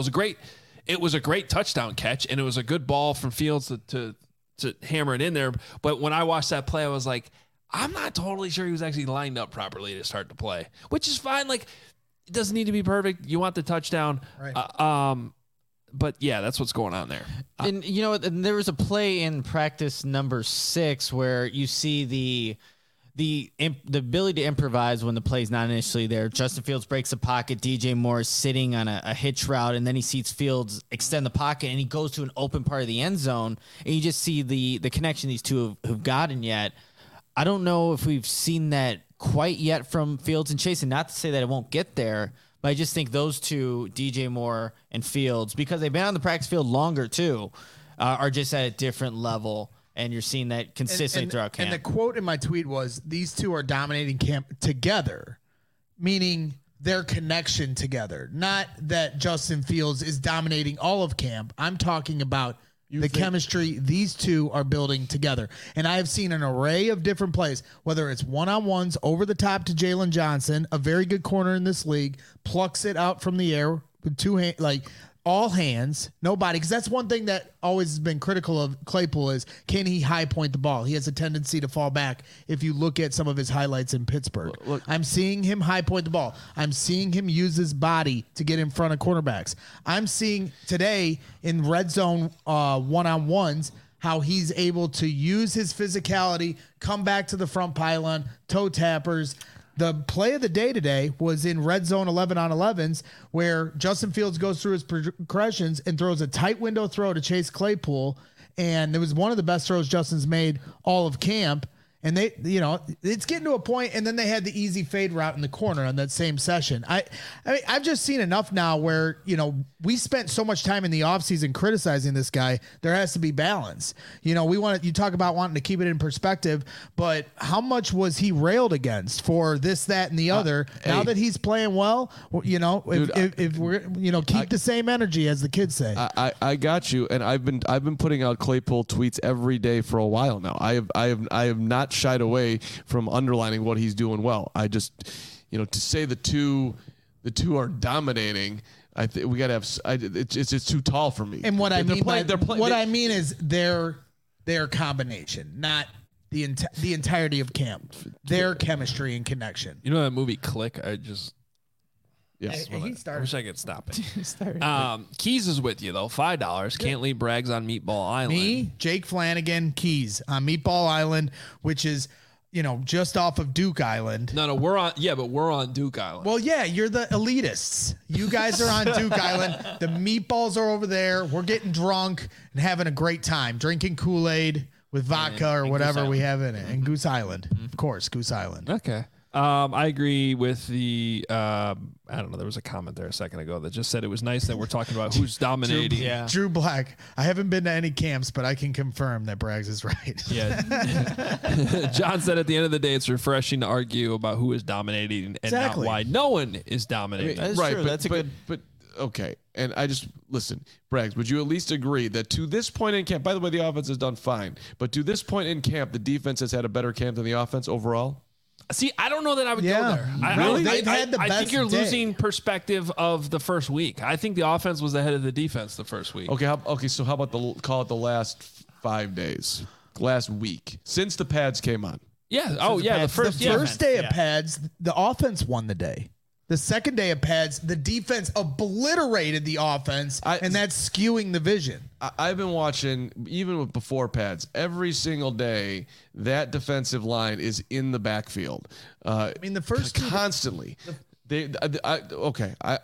it was a great touchdown catch, and it was a good ball from Fields to hammer it in there. But when I watched that play, I was like, I'm not totally sure he was actually lined up properly to start the play, which is fine. Like, it doesn't need to be perfect. You want the touchdown. Right. But yeah, that's what's going on there. And and there was a play in practice number 6 where you see the ability to improvise when the play's not initially there. Justin Fields breaks the pocket. DJ Moore is sitting on a hitch route, and then he sees Fields extend the pocket, and he goes to an open part of the end zone, and you just see the connection these two have gotten yet. I don't know if we've seen that quite yet from Fields and Chase, and not to say that it won't get there, but I just think those two, DJ Moore and Fields, because they've been on the practice field longer too, are just at a different level. And you're seeing that consistently throughout camp. And the quote in my tweet was, these two are dominating camp together, meaning their connection together. Not that Justin Fields is dominating all of camp. I'm talking about the chemistry these two are building together. And I have seen an array of different plays, whether it's one-on-ones over the top to Jalen Johnson, a very good corner in this league, plucks it out from the air with two hands, like all hands, nobody. Because that's one thing that always has been critical of Claypool is, can he high point the ball? He has a tendency to fall back if you look at some of his highlights in Pittsburgh. Look, I'm seeing him high point the ball. I'm seeing him use his body to get in front of cornerbacks. I'm seeing today in red zone one-on-ones how he's able to use his physicality, come back to the front pylon, toe tappers. The play of the day today was in red zone 11-on-11s where Justin Fields goes through his progressions and throws a tight window throw to Chase Claypool. And it was one of the best throws Justin's made all of camp. And they, it's getting to a point, and then they had the easy fade route in the corner on that same session. I mean, I've just seen enough now where, we spent so much time in the offseason criticizing this guy. There has to be balance. You talk about wanting to keep it in perspective, but how much was he railed against for this, that, and the other? Now that he's playing well, if we're, keep the same energy, as the kids say. I got you. And I've been putting out Claypool tweets every day for a while now. I have not shied away from underlining what he's doing well. I just, to say the two are dominating, I think we got to have. It's too tall for me. And what I mean is their combination, not the entirety of camp. Their chemistry and connection. You know that movie Click? Yes. I wish I could stop it. Keys is with you, though. $5. Can't leave Braggs on Meatball Island. Me, Jake Flanagan, Keys on Meatball Island, which is, just off of Duke Island. No, we're on Duke Island. Well, yeah, you're the elitists. You guys are on Duke Island. The meatballs are over there. We're getting drunk and having a great time, drinking Kool-Aid with vodka or whatever we have in it. And Goose Island. Of course, Goose Island. Okay. I agree with the, I don't know, there was a comment there a second ago that just said it was nice that we're talking about who's dominating. Drew Black. I haven't been to any camps, but I can confirm that Braggs is right. Yeah. John said at the end of the day, it's refreshing to argue about who is dominating and not why no one is dominating. That's true. That's a good. But okay. And listen, Braggs, would you at least agree that to this point in camp, by the way, the offense has done fine, but to this point in camp, the defense has had a better camp than the offense overall? See, I don't know that I would go there. I think you're losing perspective of the first week. I think the offense was ahead of the defense the first week. Okay. So how about call it the last 5 days, last week since the pads came on? Yeah. The first day of pads, the offense won the day. The second day of pads, the defense obliterated the offense, and that's skewing the vision. I've been watching, even before pads, every single day, that defensive line is in the backfield. The first constantly. I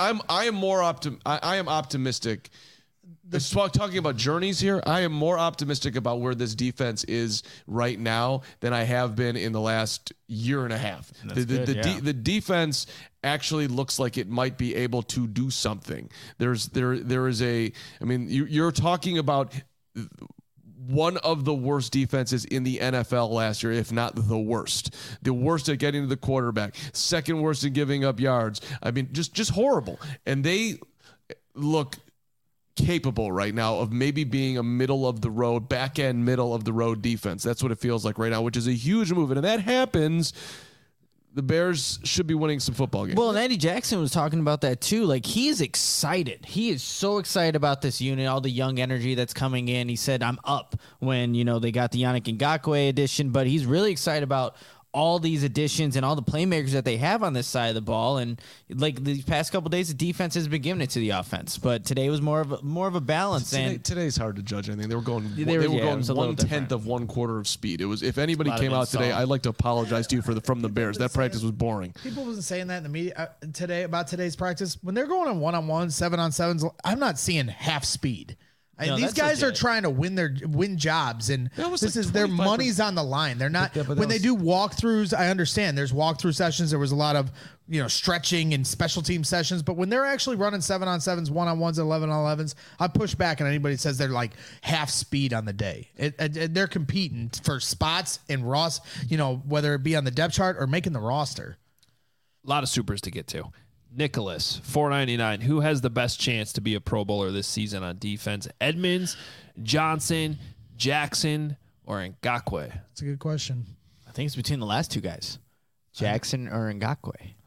am optimistic. Talking about journeys here, I am more optimistic about where this defense is right now than I have been in the last year and a half. The defense actually looks like it might be able to do something. There is you're talking about one of the worst defenses in the NFL last year, if not the worst. The worst at getting to the quarterback, second worst at giving up yards. I mean, just horrible. And they look capable right now of maybe being a middle of the road defense. That's what it feels like right now, which is a huge move. And if that happens, the Bears should be winning some football games. Well, and Eddie Jackson was talking about that too. Like, he is excited. He is so excited about this unit, all the young energy that's coming in. He said, I'm up when, they got the Yannick Ngakoue edition, but he's really excited about all these additions and all the playmakers that they have on this side of the ball. And like these past couple of days, the defense has been giving it to the offense, but today was more of a balance. Today's hard to judge anything. They were going 1/10 of 1 quarter of speed. It was, if anybody came out today, I'd like to apologize to you from the Bears. That practice was boring. People wasn't saying that in the media today about today's practice. When they're going on 1-on-1, 7-on-7s, I'm not seeing half speed. These guys are trying to win jobs, and their money's on the line. They're not when they do walkthroughs. I understand there's walkthrough sessions. There was a lot of stretching and special team sessions, but when they're actually running 7-on-7s, 1-on-1s, 11-on-11s, I push back on anybody that says they're like half speed on the day. They're competing for spots in Ross, whether it be on the depth chart or making the roster. A lot of supers to get to. Nicholas, $4.99. Who has the best chance to be a Pro Bowler this season on defense? Edmonds, Johnson, Jackson, or Ngakoue? That's a good question. I think it's between the last two guys, Jackson or Ngakoue.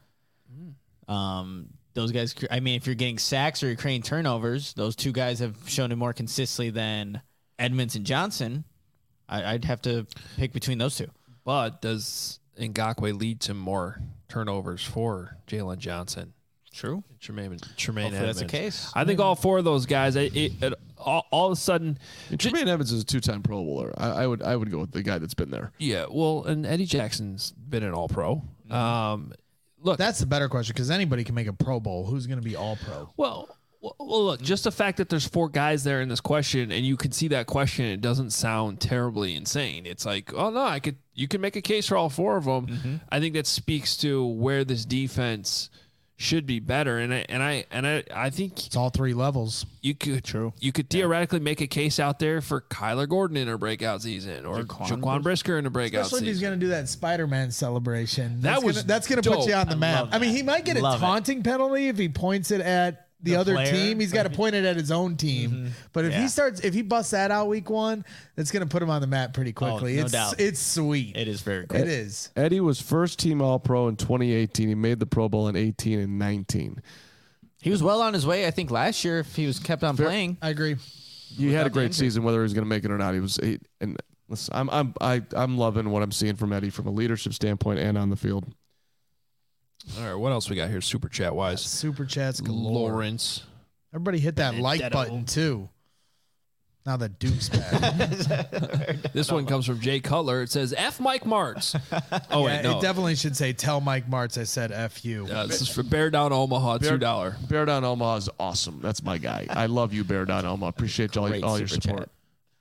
Those guys, if you're getting sacks or you're creating turnovers, those two guys have shown it more consistently than Edmonds and Johnson. I'd have to pick between those two. But does Ngakoue lead to more turnovers for Jalen Johnson? True. Tremaine Hopefully Edmonds. that's the case. I think all four of those guys, all of a sudden, Tremaine Edmonds is a 2-time Pro Bowler. I would go with the guy that's been there. Yeah, well, and Eddie Jackson's been an All-Pro. Look, that's the better question because anybody can make a Pro Bowl. Who's going to be All-Pro? Well, look, just the fact that there's 4 guys there in this question, and you can see that question, it doesn't sound terribly insane. It's like, oh no, you can make a case for all 4 of them. Mm-hmm. I think that speaks to where this defense should be better. And I think It's all 3 levels. you could theoretically make a case out there for Kyler Gordon in a breakout season or Jaquan Brisker in a breakout Especially if he's season. going to do that Spider-Man celebration. That's that's going to put dope. you on the map. love I mean, that. he might get a Love it. taunting penalty if he points it at the other player, team. He's got to point it at his own team. Mm-hmm. But if he busts that out week 1, that's going to put him on the map pretty quickly. no it's doubt. it's sweet. It is very good. It is. Eddie was first team All-Pro in 2018. He made the Pro Bowl in 18 and 19. He was well on his way, I think, last year if he was kept on playing. I agree. He had a great injury. season, whether he was going to make it or not. And listen, I'm loving what I'm seeing from Eddie from a leadership standpoint and on the field. All right, what this we got here super chat wise? Super chats galore. Lawrence. Everybody hit that like Benedetto. button too. Now the Duke's back. This one comes from Jay Cutler. It says F Mike Martz. Oh wait, no. It definitely should say tell Mike Martz I said F you. This is for Bear Down Omaha, $2. Bear Down Omaha is awesome. That's my guy. I love you, Bear Down Omaha. Appreciate all your super support.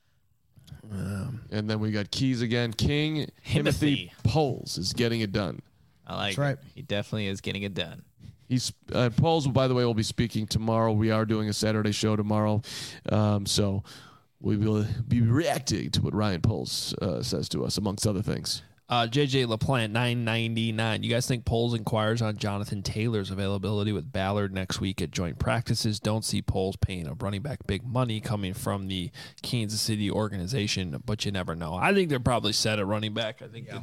And then we got Keys again. King Timothy Timothy. Poles is getting it done. I like That's right. it. He definitely is getting it done. He's Poles, by the way, will be speaking tomorrow. We are doing a Saturday show tomorrow, so we will be reacting to what Ryan Poles says to us, amongst other things. JJ LaPlante, $9.99. You guys think Poles inquires on Jonathan Taylor's availability with Ballard next week at joint practices? Don't see Poles paying a running back big money coming from the Kansas City organization, but you never know. I think they're probably set at running back. I think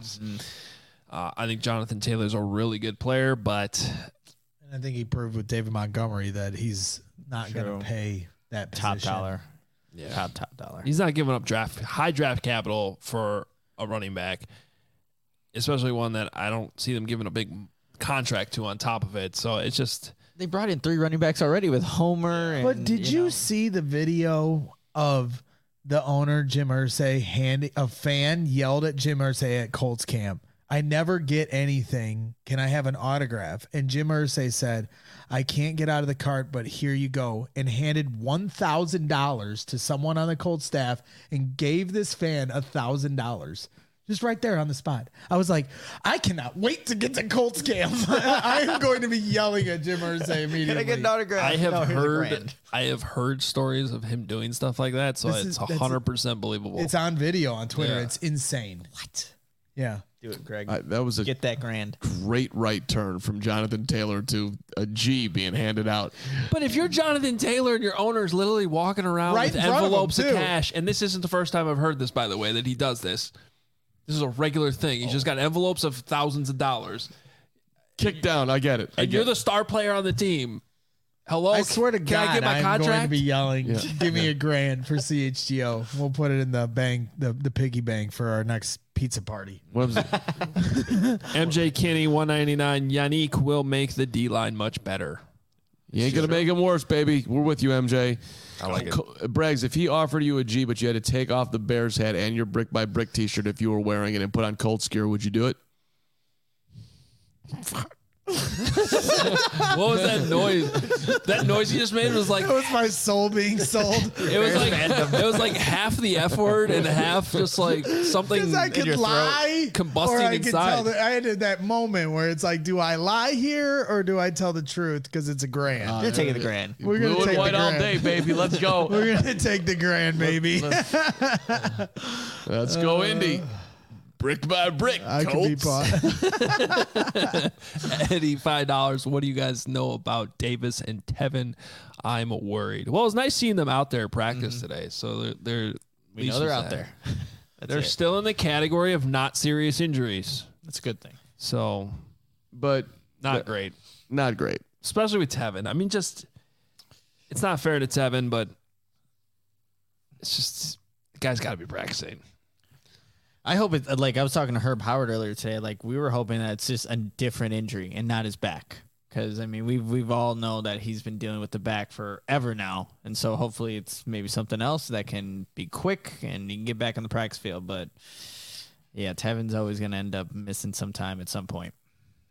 I think Jonathan Taylor's a really good player, but And I think he proved with David Montgomery that he's not going True. to pay that Top position. dollar. yeah, Top dollar. he's not giving up high draft capital for a running back, especially one that I don't see them giving a big contract to on top of it. So it's just They brought in 3 running backs already with Homer. And, But did you know, see the video of the owner, Jim Irsay, a fan yelled at Jim Irsay at Colts camp, I never get anything. Can I have an autograph? And Jim Irsay said, I can't get out of the cart, but here you go. And handed $1,000 to someone on the Colts staff and gave this fan $1,000. Just right there on the spot. I was like, I cannot wait to get to Colts camp. I am going to be yelling at Jim Irsay immediately. Can I get an autograph? I have No, here's $1,000. I have heard stories of him doing stuff like that, so This it's is- that's- 100% believable. It's on video on Twitter. Yeah. It's insane. What? Yeah. Do it, Greg. That was a Get that grand. great right turn from Jonathan Taylor to a G being handed out. But if you're Jonathan Taylor and your owner's literally walking around Right with in front of him, envelopes of too. cash, and this isn't the first time I've heard this, by the way, that he does this. This is a regular thing. He's just got envelopes of thousands of dollars. Kick down. I get it. And you're the star player on the team. Hello? I swear to Can God, I get my I'm going to contract? be yelling, give me $1,000 for CHGO. We'll put it in the bank, the piggy bank for our next pizza party. What was it? MJ Kinney, $199. Yannick will make the D-line much better. You ain't going to make him worse, baby. We're with you, MJ. I like it. Braggs, if he offered you a G, but you had to take off the Bears hat and your brick by brick t-shirt if you were wearing it and put on Colts gear, would you do it? What was that noise? That noise you just made was like That was my soul being sold. it was like half the F word and half just like something Because I in could your lie, throat combusting or I could inside. tell that I had that moment where it's like, do I lie here or do I tell the truth? Because it's $1,000. You're taking the grand. We're gonna Blue and take white the all grand. day, baby. Let's go. We're gonna take the $1,000, baby. Let's go, Indy. Brick by brick, I could be Colts. bought. Eddie, $5. What do you guys know about Davis and Tevin? I'm worried. Well, it's nice seeing them out there practice today. So they're We know they're out there. That's They're it. still in the category of not serious injuries. That's a good thing. So But not great. not great. Especially with Tevin. I mean, just it's not fair to Tevin, but it's just the guy's got to be practicing. I hope it, like I was talking to Herb Howard earlier today, like we were hoping that it's just a different injury and not his back. Because I mean, we've all know that he's been dealing with the back forever now, and so hopefully it's maybe something else that can be quick and he can get back on the practice field. But yeah, Tevin's always going to end up missing some time at some point.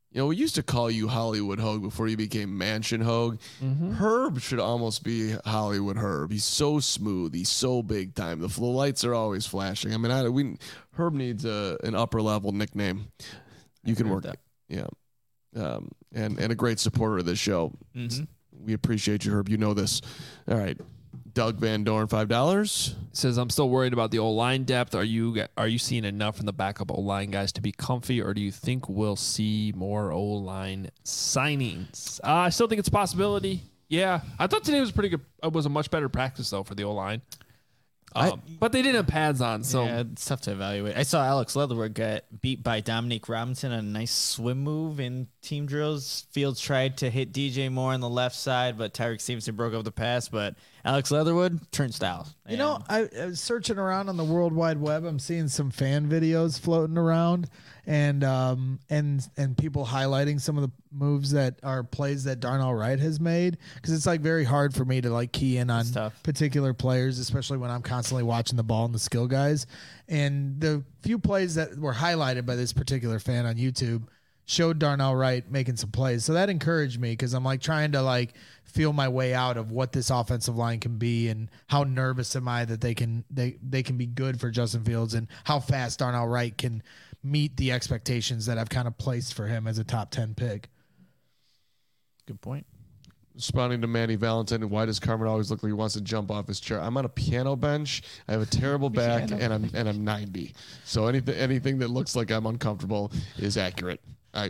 we used to call you Hollywood Hogue before you became Mansion Hogue. Mm-hmm. Herb should almost be Hollywood Herb. He's so smooth. He's so big time. The lights are always flashing. I mean, Herb needs an upper level nickname. You can work that. Yeah. And a great supporter of this show. Mm-hmm. We appreciate you, Herb. You know this. All right. Doug Van Dorn, $5. Says, I'm still worried about the O-line depth. Are you seeing enough in the backup O-line guys to be comfy, or do you think we'll see more O-line signings? I still think it's a possibility. Yeah. I thought today was pretty good. It was a much better practice, though, for the O-line. But they didn't have pads on, so yeah, it's tough to evaluate. I saw Alex Leatherwood get beat by Dominique Robinson on a nice swim move in team drills. Fields tried to hit DJ Moore on the left side, but Tyreek Stevenson broke up the pass. But Alex Leatherwood, turnstile. You know, I was searching around on the World Wide Web. I'm seeing some fan videos floating around, and people highlighting some of the moves that are plays that Darnell Wright has made, because it's like very hard for me to like key in on particular players, especially when I'm constantly watching the ball and the skill guys. And the few plays that were highlighted by this particular fan on YouTube showed Darnell Wright making some plays. So that encouraged me, because I'm like trying to like feel my way out of what this offensive line can be, and how nervous am I that they can be good for Justin Fields, and how fast Darnell Wright can meet the expectations that I've kind of placed for him as a top 10 pick. Good point. Responding to Manny Valentine, why does Carmen always look like he wants to jump off his chair? I'm on a piano bench. I have a terrible back, and I'm 90. So anything that looks like I'm uncomfortable is accurate.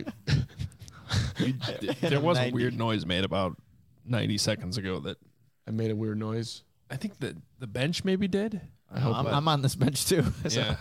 There was a weird noise made about 90 seconds ago that I made a weird noise. I think that the bench maybe did. I'm on this bench too. So. Yeah.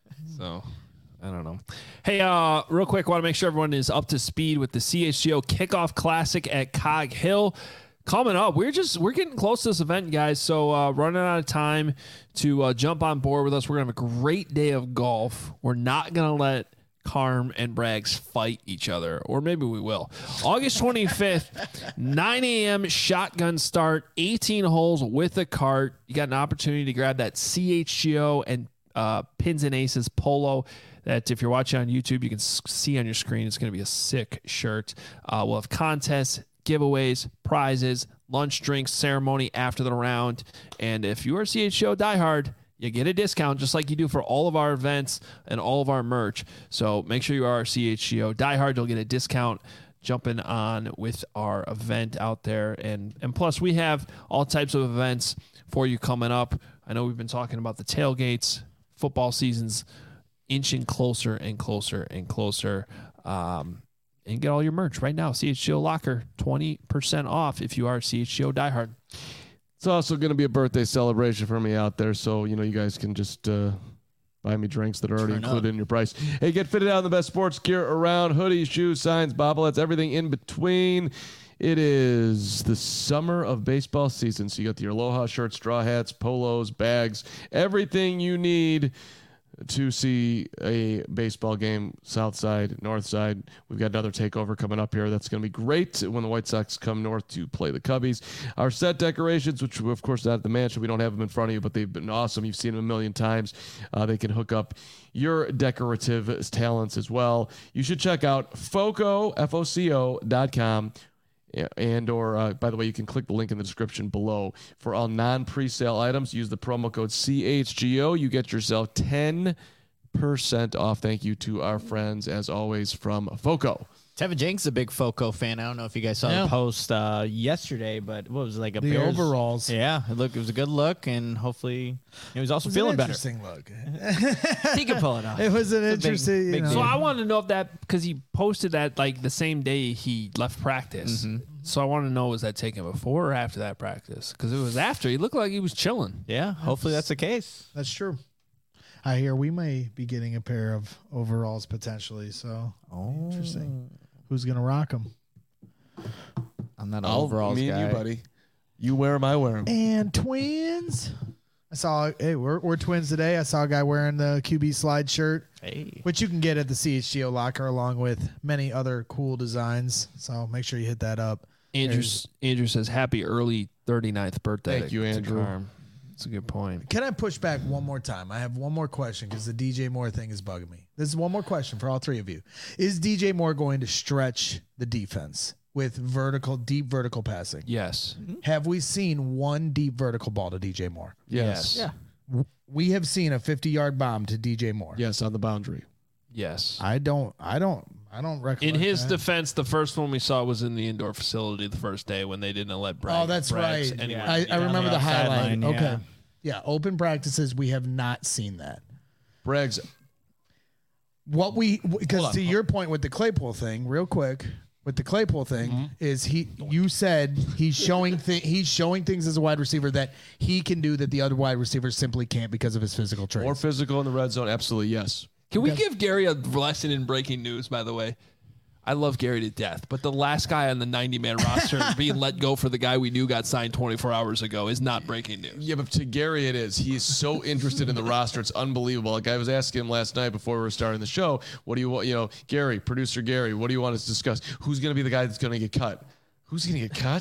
So I don't know. Hey, real quick, want to make sure everyone is up to speed with the CHGO Kickoff Classic at Cog Hill coming up. We're getting close to this event, guys. So running out of time to jump on board with us. We're gonna have a great day of golf. We're not gonna let Carm and Braggs fight each other, or maybe we will. August 25th, 9 a.m. shotgun start, 18 holes with a cart. You got an opportunity to grab that CHGO and Pins and Aces polo that, if you're watching on YouTube, you can see on your screen. It's going to be a sick shirt. We'll have contests, giveaways, prizes, lunch, drinks, ceremony after the round. And if you are a CHGO diehard, you get a discount just like you do for all of our events and all of our merch. So make sure you are a CHGO diehard. You'll get a discount jumping on with our event out there. And plus, we have all types of events for you coming up. I know we've been talking about the tailgates. Football season's inching closer and closer and closer. And get all your merch right now. CHGO Locker, 20% off if you are a CHGO diehard. It's also going to be a birthday celebration for me out there, so you guys can just buy me drinks that are already included in your price. Hey, get fitted out in the best sports gear around: hoodies, shoes, signs, bobbleheads, everything in between. It is the summer of baseball season, so you got the Aloha shirts, straw hats, polos, bags, everything you need to see a baseball game, south side, north side. We've got another takeover coming up here. That's going to be great when the White Sox come north to play the Cubbies. Our set decorations, which of course not at the mansion, we don't have them in front of you, but they've been awesome. You've seen them a million times. They can hook up your decorative talents as well. You should check out FOCO.com. Or by the way, you can click the link in the description below for all non-presale items. Use the promo code CHGO. You get yourself 10% off. Thank you to our friends, as always, from FOCO. Tevin Jenkins is a big FOCO fan. I don't know if you guys saw the post yesterday, but what was it, like the Bears overalls? Yeah, it was a good look, and hopefully he was also feeling better. Interesting look. He can pull it off. It was an interesting. big So I wanted to know if that, because he posted that like the same day he left practice. Mm-hmm. So I want to know, was that taken before or after that practice? Because it was after. He looked like he was chilling. Yeah, hopefully that's the case. That's true. I hear we may be getting a pair of overalls potentially. So interesting. Who's gonna rock them? I'm not an overalls guy. Me and you, buddy. You wear them, I wear them. And twins. I saw. Hey, we're twins today. I saw a guy wearing the QB slide shirt, which you can get at the CHGO Locker along with many other cool designs. So make sure you hit that up. Andrew says, happy early 39th birthday. Thank you, Andrew. That's a good point. Can I push back one more time? I have one more question because the DJ Moore thing is bugging me. This is one more question for all three of you. Is DJ Moore going to stretch the defense with deep vertical passing? Yes. Have we seen one deep vertical ball to DJ Moore? Yes. Yeah. We have seen a 50-yard bomb to DJ Moore. Yes, on the boundary. Yes. I don't recollect. In his that. defense, the first one we saw was in the indoor facility the first day when they didn't let Bragg. Oh, that's right. Anywhere. I remember the highlight. sideline, yeah. Okay. Yeah, open practices, we have not seen that. Bragg's. Because to your point with the Claypool thing, real quick, with the Claypool thing, is you said he's showing things as a wide receiver that he can do that the other wide receivers simply can't because of his physical traits. More physical in the red zone. Absolutely, yes. Can we give Gary a lesson in breaking news, by the way? I love Gary to death, but the last guy on the 90-man roster being let go for the guy we knew got signed 24 hours ago is not breaking news. Yeah, but to Gary it is. He is so interested in the roster. It's unbelievable. Like I was asking him last night before we were starting the show, what do you want, Gary, producer Gary, what do you want us to discuss? Who's going to be the guy that's going to get cut? Who's going to get cut?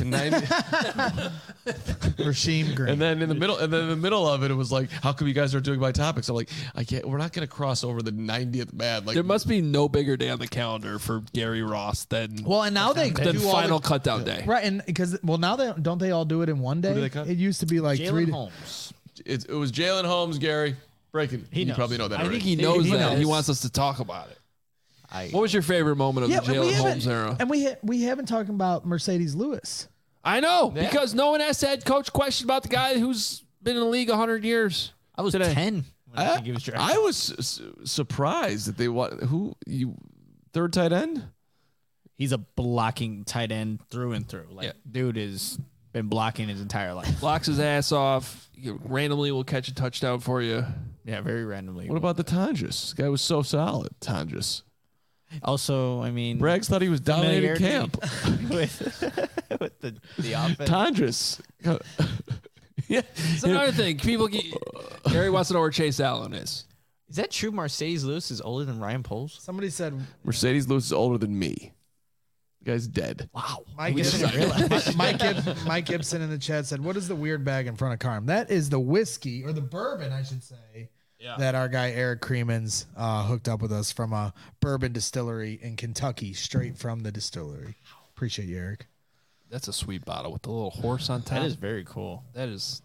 Rasheem Green. And then in the middle of it, it was like, how come you guys aren't doing my topics? I'm like, we're not going to cross over the 90th man. Like There must be no bigger day on the calendar for Gary Ross than and now they the do all final cutdown day. right, and because now don't they all do it in one day? do they cut? It used to be like Jalen Holmes. it was Jalen Holmes, Gary. Breaking. You knows. probably know that I already. think he knows that. knows. He wants us to talk about it. What was your favorite moment of the Jalen Holmes era? And we haven't talked about Mercedes Lewis. I know, because no one has head coach question about the guy who's been in the league 100 years. I was Today. 10 when I think he was drafted. I was surprised that they third tight end? He's a blocking tight end through and through. Like, dude has been blocking his entire life. Blocks his ass off. Randomly will catch a touchdown for you. Yeah, very randomly. What about the Tonjes? This guy was so solid, Tonjes. Also, I mean, Braggs thought he was dominating familiarity camp. with the offense. Tonjes. Yeah. It's another thing. Gary wants to know where Chase Allen is. Is that true? Mercedes Lewis is older than Ryan Poles? Somebody said Mercedes Lewis is older than me. The guy's dead. Wow. Mike Gibson in the chat said, "What is the weird bag in front of Carm?" That is the whiskey or the bourbon, I should say. Yeah. That our guy Eric Creemans hooked up with us from a bourbon distillery in Kentucky, straight from the distillery. Appreciate you, Eric. That's a sweet bottle with the little horse on top. That is very cool. That is.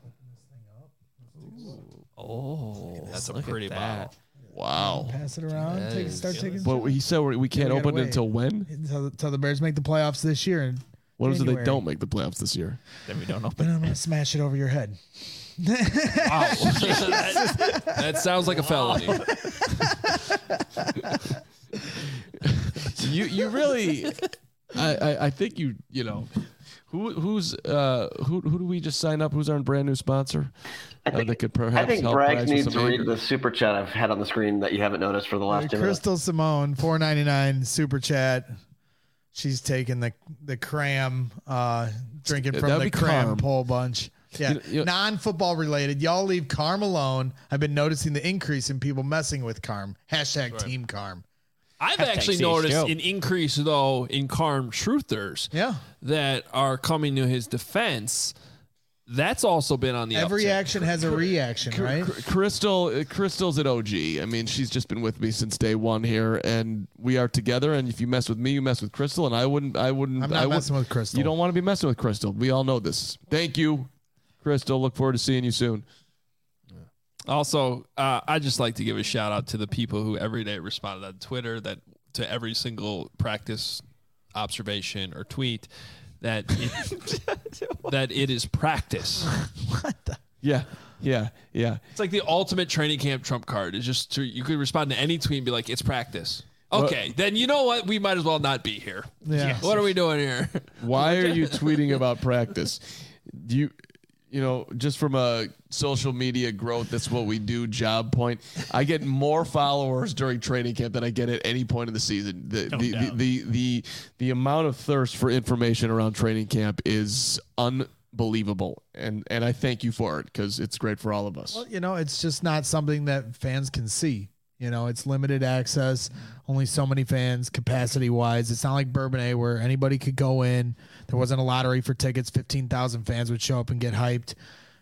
Oh, that's a Look pretty at that. bottle. Wow. Pass it around. Start taking. But he said we can't we gotta open it wait. until when? Until the Bears make the playoffs this year. And What is it they January. don't make the playoffs this year? Then we don't But open. I'm gonna smash it over your head. Wow. that sounds like a felony. You really, I think you know, who do we just sign up? Who's our brand new sponsor? That could perhaps I think help Braggs Braggs with needs some to read anger. the super chat I've had on the screen that you haven't noticed for the last 2 minutes. Crystal Simone, $4.99 super chat. She's taking the cram, drinking from That'd the be cram Carm. pole bunch. Yeah, You know- non-football related. Y'all leave Carm alone. I've been noticing the increase in people messing with Carm. # Team Carm. I've Hashtag actually CHGO. noticed an increase, though, in Carm truthers Yeah. that are coming to his defense. That's also been on the Every uptick. action has a reaction, right? Crystal's at OG. I mean, she's just been with me since day one here, and we are together. And if you mess with me, you mess with Crystal, and I wouldn't. I'm not messing with Crystal. You don't want to be messing with Crystal. We all know this. Thank you, Crystal. Look forward to seeing you soon. Also, I just like to give a shout out to the people who every day responded on Twitter to every single practice observation or tweet that it is practice. Yeah. It's like the ultimate training camp trump card. It's just you could respond to any tweet and be like, "It's practice." Okay, then you know what? We might as well not be here. Yeah. What are we doing here? Why are you tweeting about practice? You know, just from a social media growth, that's what we do job point. I get more followers during training camp than I get at any point of the season. The amount of thirst for information around training camp is unbelievable. And I thank you for it because it's great for all of us. Well, it's just not something that fans can see. It's limited access, only so many fans capacity wise. It's not like Bourbonnais where anybody could go in. There wasn't a lottery for tickets. 15,000 fans would show up and get hyped.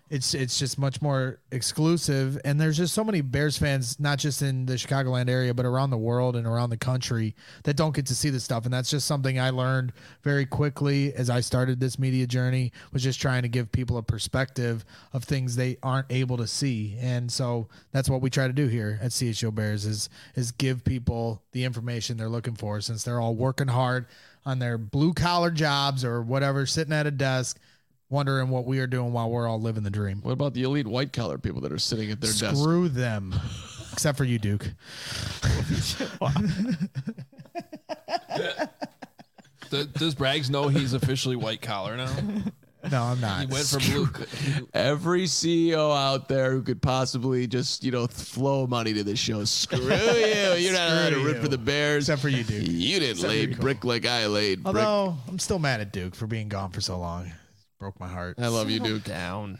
it's just much more exclusive. And there's just so many Bears fans, not just in the Chicagoland area, but around the world and around the country that don't get to see this stuff. And that's just something I learned very quickly as I started this media journey, was just trying to give people a perspective of things they aren't able to see. And so that's what we try to do here at CHGO Bears is give people the information they're looking for, since they're all working hard on their blue collar jobs or whatever, sitting at a desk, wondering what we are doing while we're all living the dream. What about the elite white collar people that are sitting at their desk? Screw them. Except for you, Duke. Does Braggs know he's officially white collar now? No, I'm not. He went from blue. Every CEO out there who could possibly just, flow money to this show, screw you. You're not allowed to root for the Bears. Except for you, Duke. You didn't lay brick like I laid brick. Although, I'm still mad at Duke for being gone for so long. Broke my heart. I love you, Duke. Down.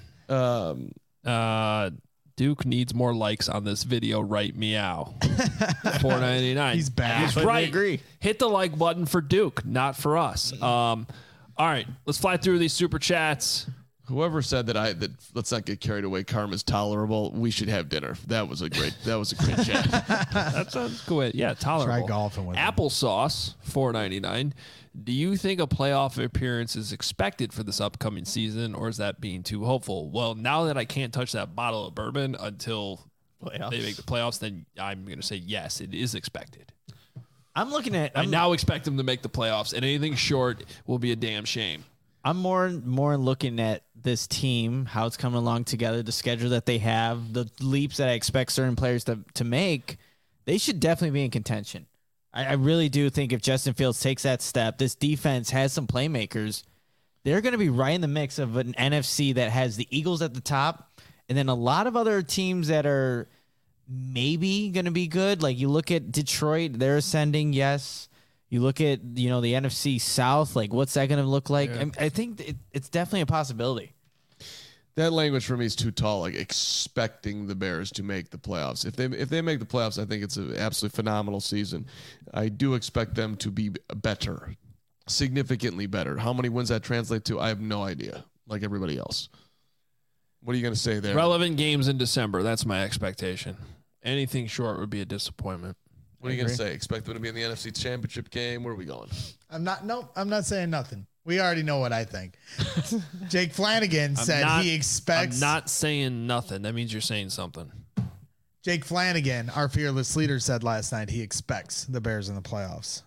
Duke needs more likes on this video. Right, meow. $4.99. He's back. He's right. Agree. Hit the like button for Duke, not for us. All right, let's fly through these super chats. Whoever said that let's not get carried away. Karma's tolerable. We should have dinner. That was a great chat. That sounds good. Yeah, tolerable. Try golfing with him. Applesauce, $4.99. Do you think a playoff appearance is expected for this upcoming season, or is that being too hopeful? Well, now that I can't touch that bottle of bourbon until they make the playoffs, then I'm going to say yes, it is expected. I'm now expect them to make the playoffs, and anything short will be a damn shame. I'm more looking at this team, how it's coming along together, the schedule that they have, the leaps that I expect certain players to make. They should definitely be in contention. I really do think if Justin Fields takes that step, this defense has some playmakers. They're going to be right in the mix of an NFC that has the Eagles at the top, and then a lot of other teams that are maybe going to be good. Like you look at Detroit, they're ascending, yes. You look at, the NFC South, like what's that going to look like? Yeah. I think it's definitely a possibility. That language for me is too tall, like expecting the Bears to make the playoffs. If they make the playoffs, I think it's an absolutely phenomenal season. I do expect them to be better, significantly better. How many wins that translate to, I have no idea, like everybody else. What are you going to say there? Relevant games in December. That's my expectation. Anything short would be a disappointment. What are you going to say? Expect them to be in the NFC Championship game? Where are we going? I'm not saying nothing. We already know what I think. Jake Flanagan said he expects. I'm not saying nothing. That means you're saying something. Jake Flanagan, our fearless leader, said last night he expects the Bears in the playoffs.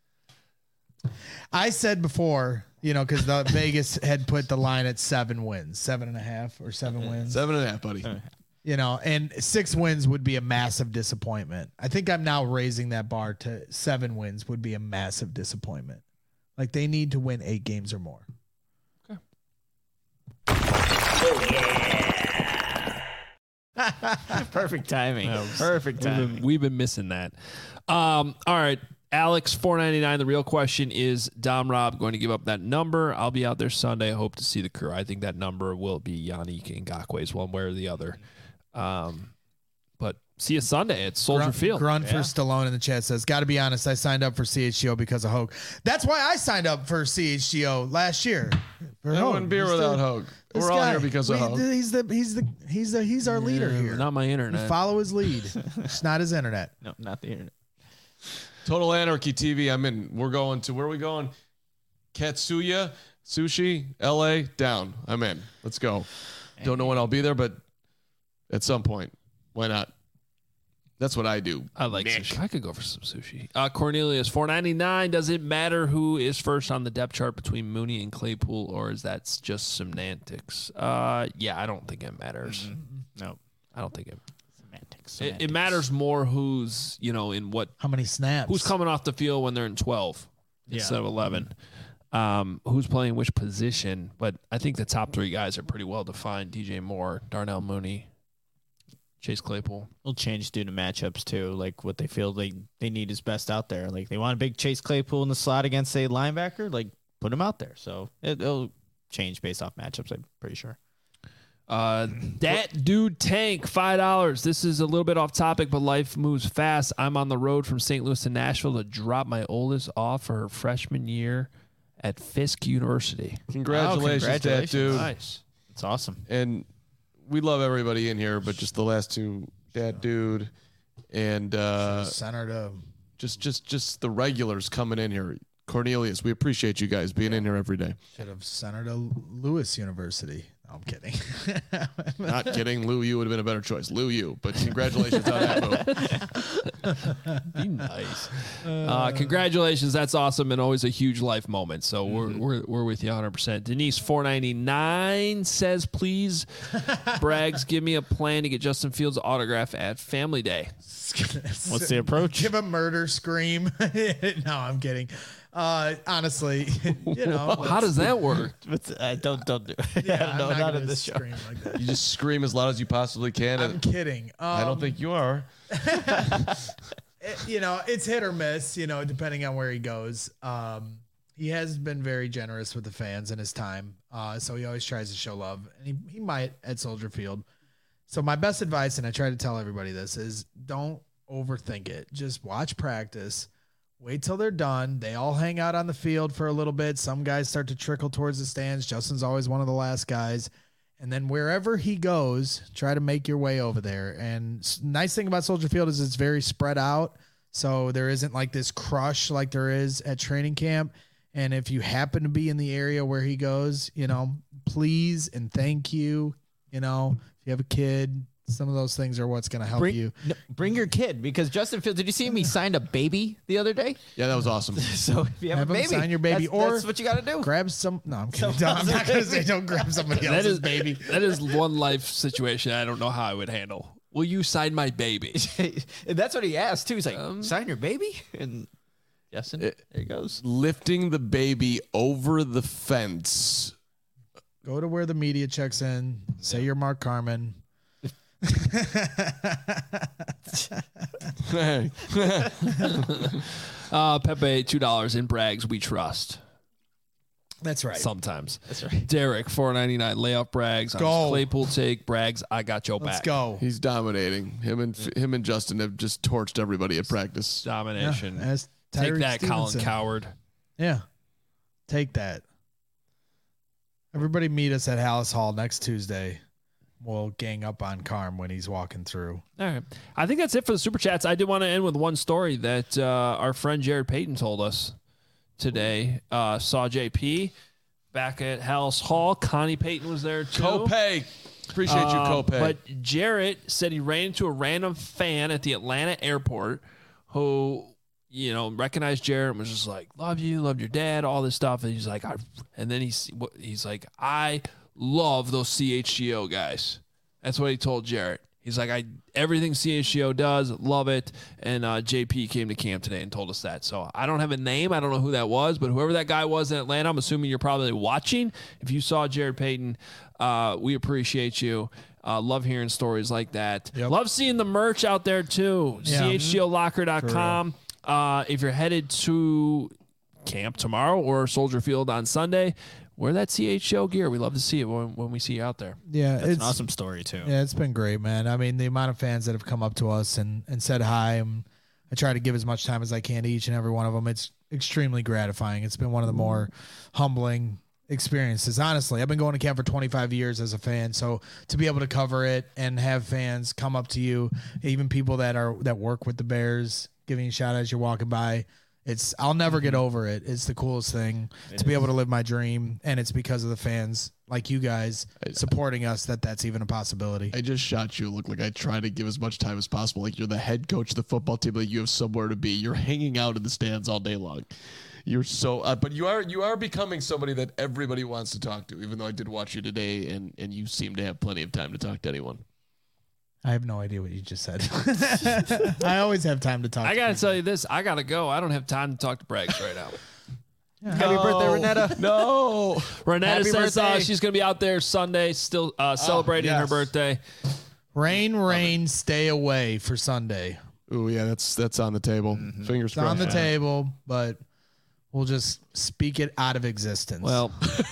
I said before, because the Vegas had put the line at 7 wins, 7.5 or 7 wins. 7.5, buddy. And 6 wins would be a massive disappointment. I think I'm now raising that bar to 7 wins would be a massive disappointment. Like they need to win 8 games or more. Okay. Oh, yeah. Perfect timing. Perfect timing. We've been missing that. All right. Alex, $4.99. The real question is, Dom Rob going to give up that number? I'll be out there Sunday. I hope to see the crew. I think that number will be Yannick Ngakwe's one way or the other. But see you Sunday at Soldier Field. Grunt for Stallone in the chat says, got to be honest, I signed up for CHGO because of Hogue. That's why I signed up for CHGO last year. I wouldn't be without Hogue. We're all here because of Hogue. He's our leader here. Not my internet. We follow his lead. It's not his internet. No, not the internet. Total Anarchy TV. I'm in. We're going to, where are we going? Katsuya Sushi, LA, down. I'm in. Let's go. Don't know when I'll be there, but at some point. Why not? That's what I do. I like sushi. I could go for some sushi. Cornelius, $4.99. Does it matter who is first on the depth chart between Mooney and Claypool, or is that just semantics? Yeah, I don't think it matters. Mm-hmm. No, I don't think it. Semantics. It matters more who's in what. How many snaps? Who's coming off the field when they're in 12 instead of 11? Who's playing which position? But I think the top 3 guys are pretty well defined: DJ Moore, Darnell Mooney, Chase Claypool. Will change due to matchups too, like what they feel they need is best out there. Like they want a big Chase Claypool in the slot against a linebacker, like put him out there. So it'll change based off matchups, I'm pretty sure. That dude Tank, $5. This is a little bit off topic, but life moves fast. I'm on the road from St. Louis to Nashville to drop my oldest off for her freshman year at Fisk University. Congratulations, that dude. Nice. It's awesome. And we love everybody in here, but just the last two, Dad Dude and Senator. Just the regulars coming in here. Cornelius, we appreciate you guys being in here every day. Should have Senator Lewis University. No, I'm kidding. Not kidding. Lou Yu would have been a better choice. Lou Yu, but congratulations on that move. Be nice. Congratulations. That's awesome and always a huge life moment. So we're with you 100%. Denise 499 says, please, Braggs, give me a plan to get Justin Fields' autograph at Family Day. What's the approach? Give a murder scream. No, I'm kidding. Honestly, how does that work? Don't do it. Yeah, no, I'm not gonna in this show. scream like that. You just scream as loud as you possibly can. I'm kidding. I don't think you are. It's hit or miss, depending on where he goes. He has been very generous with the fans in his time. So he always tries to show love, and he might at Soldier Field. So my best advice, and I try to tell everybody this, is don't overthink it. Just watch practice. Wait till they're done. They all hang out on the field for a little bit. Some guys start to trickle towards the stands. Justin's always one of the last guys. And then wherever he goes, try to make your way over there. And nice thing about Soldier Field is it's very spread out. So there isn't like this crush like there is at training camp. And if you happen to be in the area where he goes, please and thank you. If you have a kid, some of those things are what's going to help you. Bring your kid, because Justin Fields, did you see him? He signed a baby the other day. Yeah, that was awesome. So if you have a baby, sign your baby, that's what you got to do. Grab some. No, I'm kidding. I'm not going to say don't grab somebody else's baby. That is one life situation I don't know how I would handle. Will you sign my baby? And that's what he asked too. He's like, sign your baby? And Justin, there he goes. Lifting the baby over the fence. Go to where the media checks in. Say you're Mark Carman. Pepe, $2 in Braggs we trust. That's right. Sometimes. That's right. Derek, $4.99. Lay off Braggs. On Go. his Claypool take. Braggs, I got your back. Let's go. He's dominating. Him and Justin have just torched everybody at practice. Domination. Yeah, take Tyreek that, Stevenson. Colin Coward. Yeah. Take that. Everybody meet us at Hallis Hall next Tuesday. We'll gang up on Carm when he's walking through. All right. I think that's it for the Super Chats. I did want to end with one story that our friend Jared Payton told us today. Saw JP back at Hallis Hall. Connie Payton was there too. Copay. Appreciate you, Copay. But Jarrett said he ran into a random fan at the Atlanta airport who, recognized Jarrett and was just like, love you, loved your dad, all this stuff. And he's like, he's like, I love those CHGO guys. That's what he told Jarrett. He's like, everything CHGO does, love it. And JP came to camp today and told us that. So I don't have a name. I don't know who that was, but whoever that guy was in Atlanta, I'm assuming you're probably watching. If you saw Jared Payton, we appreciate you. Love hearing stories like that. Yep. Love seeing the merch out there too. Yeah. CHGOlocker.com. If you're headed to camp tomorrow or Soldier Field on Sunday, wear that CHGO gear. We love to see it when we see you out there. Yeah, That's an awesome story too. Yeah, it's been great, man. I mean, the amount of fans that have come up to us and said hi. I try to give as much time as I can to each and every one of them. It's extremely gratifying. It's been one of the more humbling experiences. Honestly, I've been going to camp for 25 years as a fan, so to be able to cover it and have fans come up to you, even people that work with the Bears, giving you a shout out as you're walking by. I'll never get over it. It's the coolest thing to be able to live my dream, and it's because of the fans like you guys supporting us that's even a possibility. I just shot you. Look like I try to give as much time as possible. Like you're the head coach of the football team. Like you have somewhere to be. You're hanging out in the stands all day long. You're so, but you are becoming somebody that everybody wants to talk to. Even though I did watch you today, and you seem to have plenty of time to talk to anyone. I have no idea what you just said. I always have time to talk. I got to tell you this. I got to go. I don't have time to talk to Braggs right now. Happy birthday, Renetta. No. Renetta Happy says birthday. she's going to be out there Sunday, still celebrating her yes. birthday. Rain, stay away for Sunday. Oh yeah, that's on the table. Fingers It's on crossed. the table, but we'll just speak it out of existence. Well,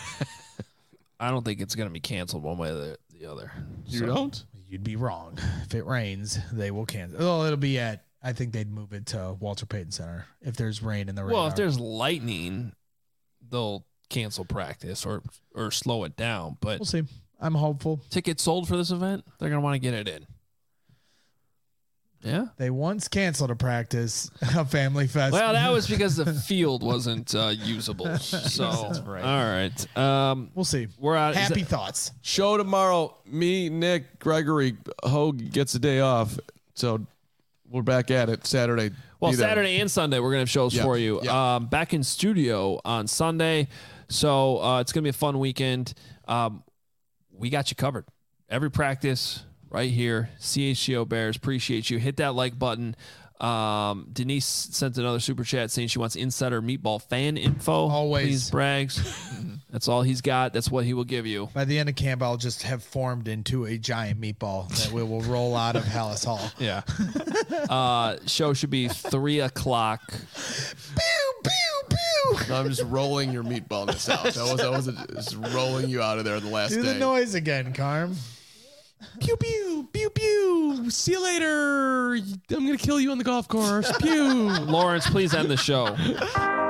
I don't think it's going to be canceled one way or the other. You So, don't? you'd be wrong. If it rains, they will cancel. Oh, it'll be I think they'd move it to Walter Payton Center if there's rain in the radar. Well, if there's lightning, they'll cancel practice or slow it down. But We'll see. I'm hopeful. Tickets sold for this event. They're going to want to get it in. Yeah. They once canceled a practice, a family fest. Well, that was because the field wasn't usable. So, right. All right. We'll see. We're out. Happy thoughts. Show tomorrow. Me, Nick, Gregory, Hogue gets a day off. So we're back at it Saturday. Well, Saturday and Sunday, we're going to have shows for you. Yeah. Back in studio on Sunday. So it's going to be a fun weekend. We got you covered. Every practice right here. CHGO Bears. Appreciate you. Hit that like button. Denise sent another super chat saying she wants insider meatball fan info. Always. Please, Braggs. That's all he's got. That's what he will give you. By the end of camp, I'll just have formed into a giant meatball that we will roll out of Hallis Hall. Yeah. Show should be 3:00. Pew, pew, pew. No, I'm just rolling your meatballness out. That was just rolling you out of there the last Do day. the noise again, Carm. Pew, pew, pew, pew. See you later. I'm going to kill you on the golf course. Pew. Lawrence, please end the show.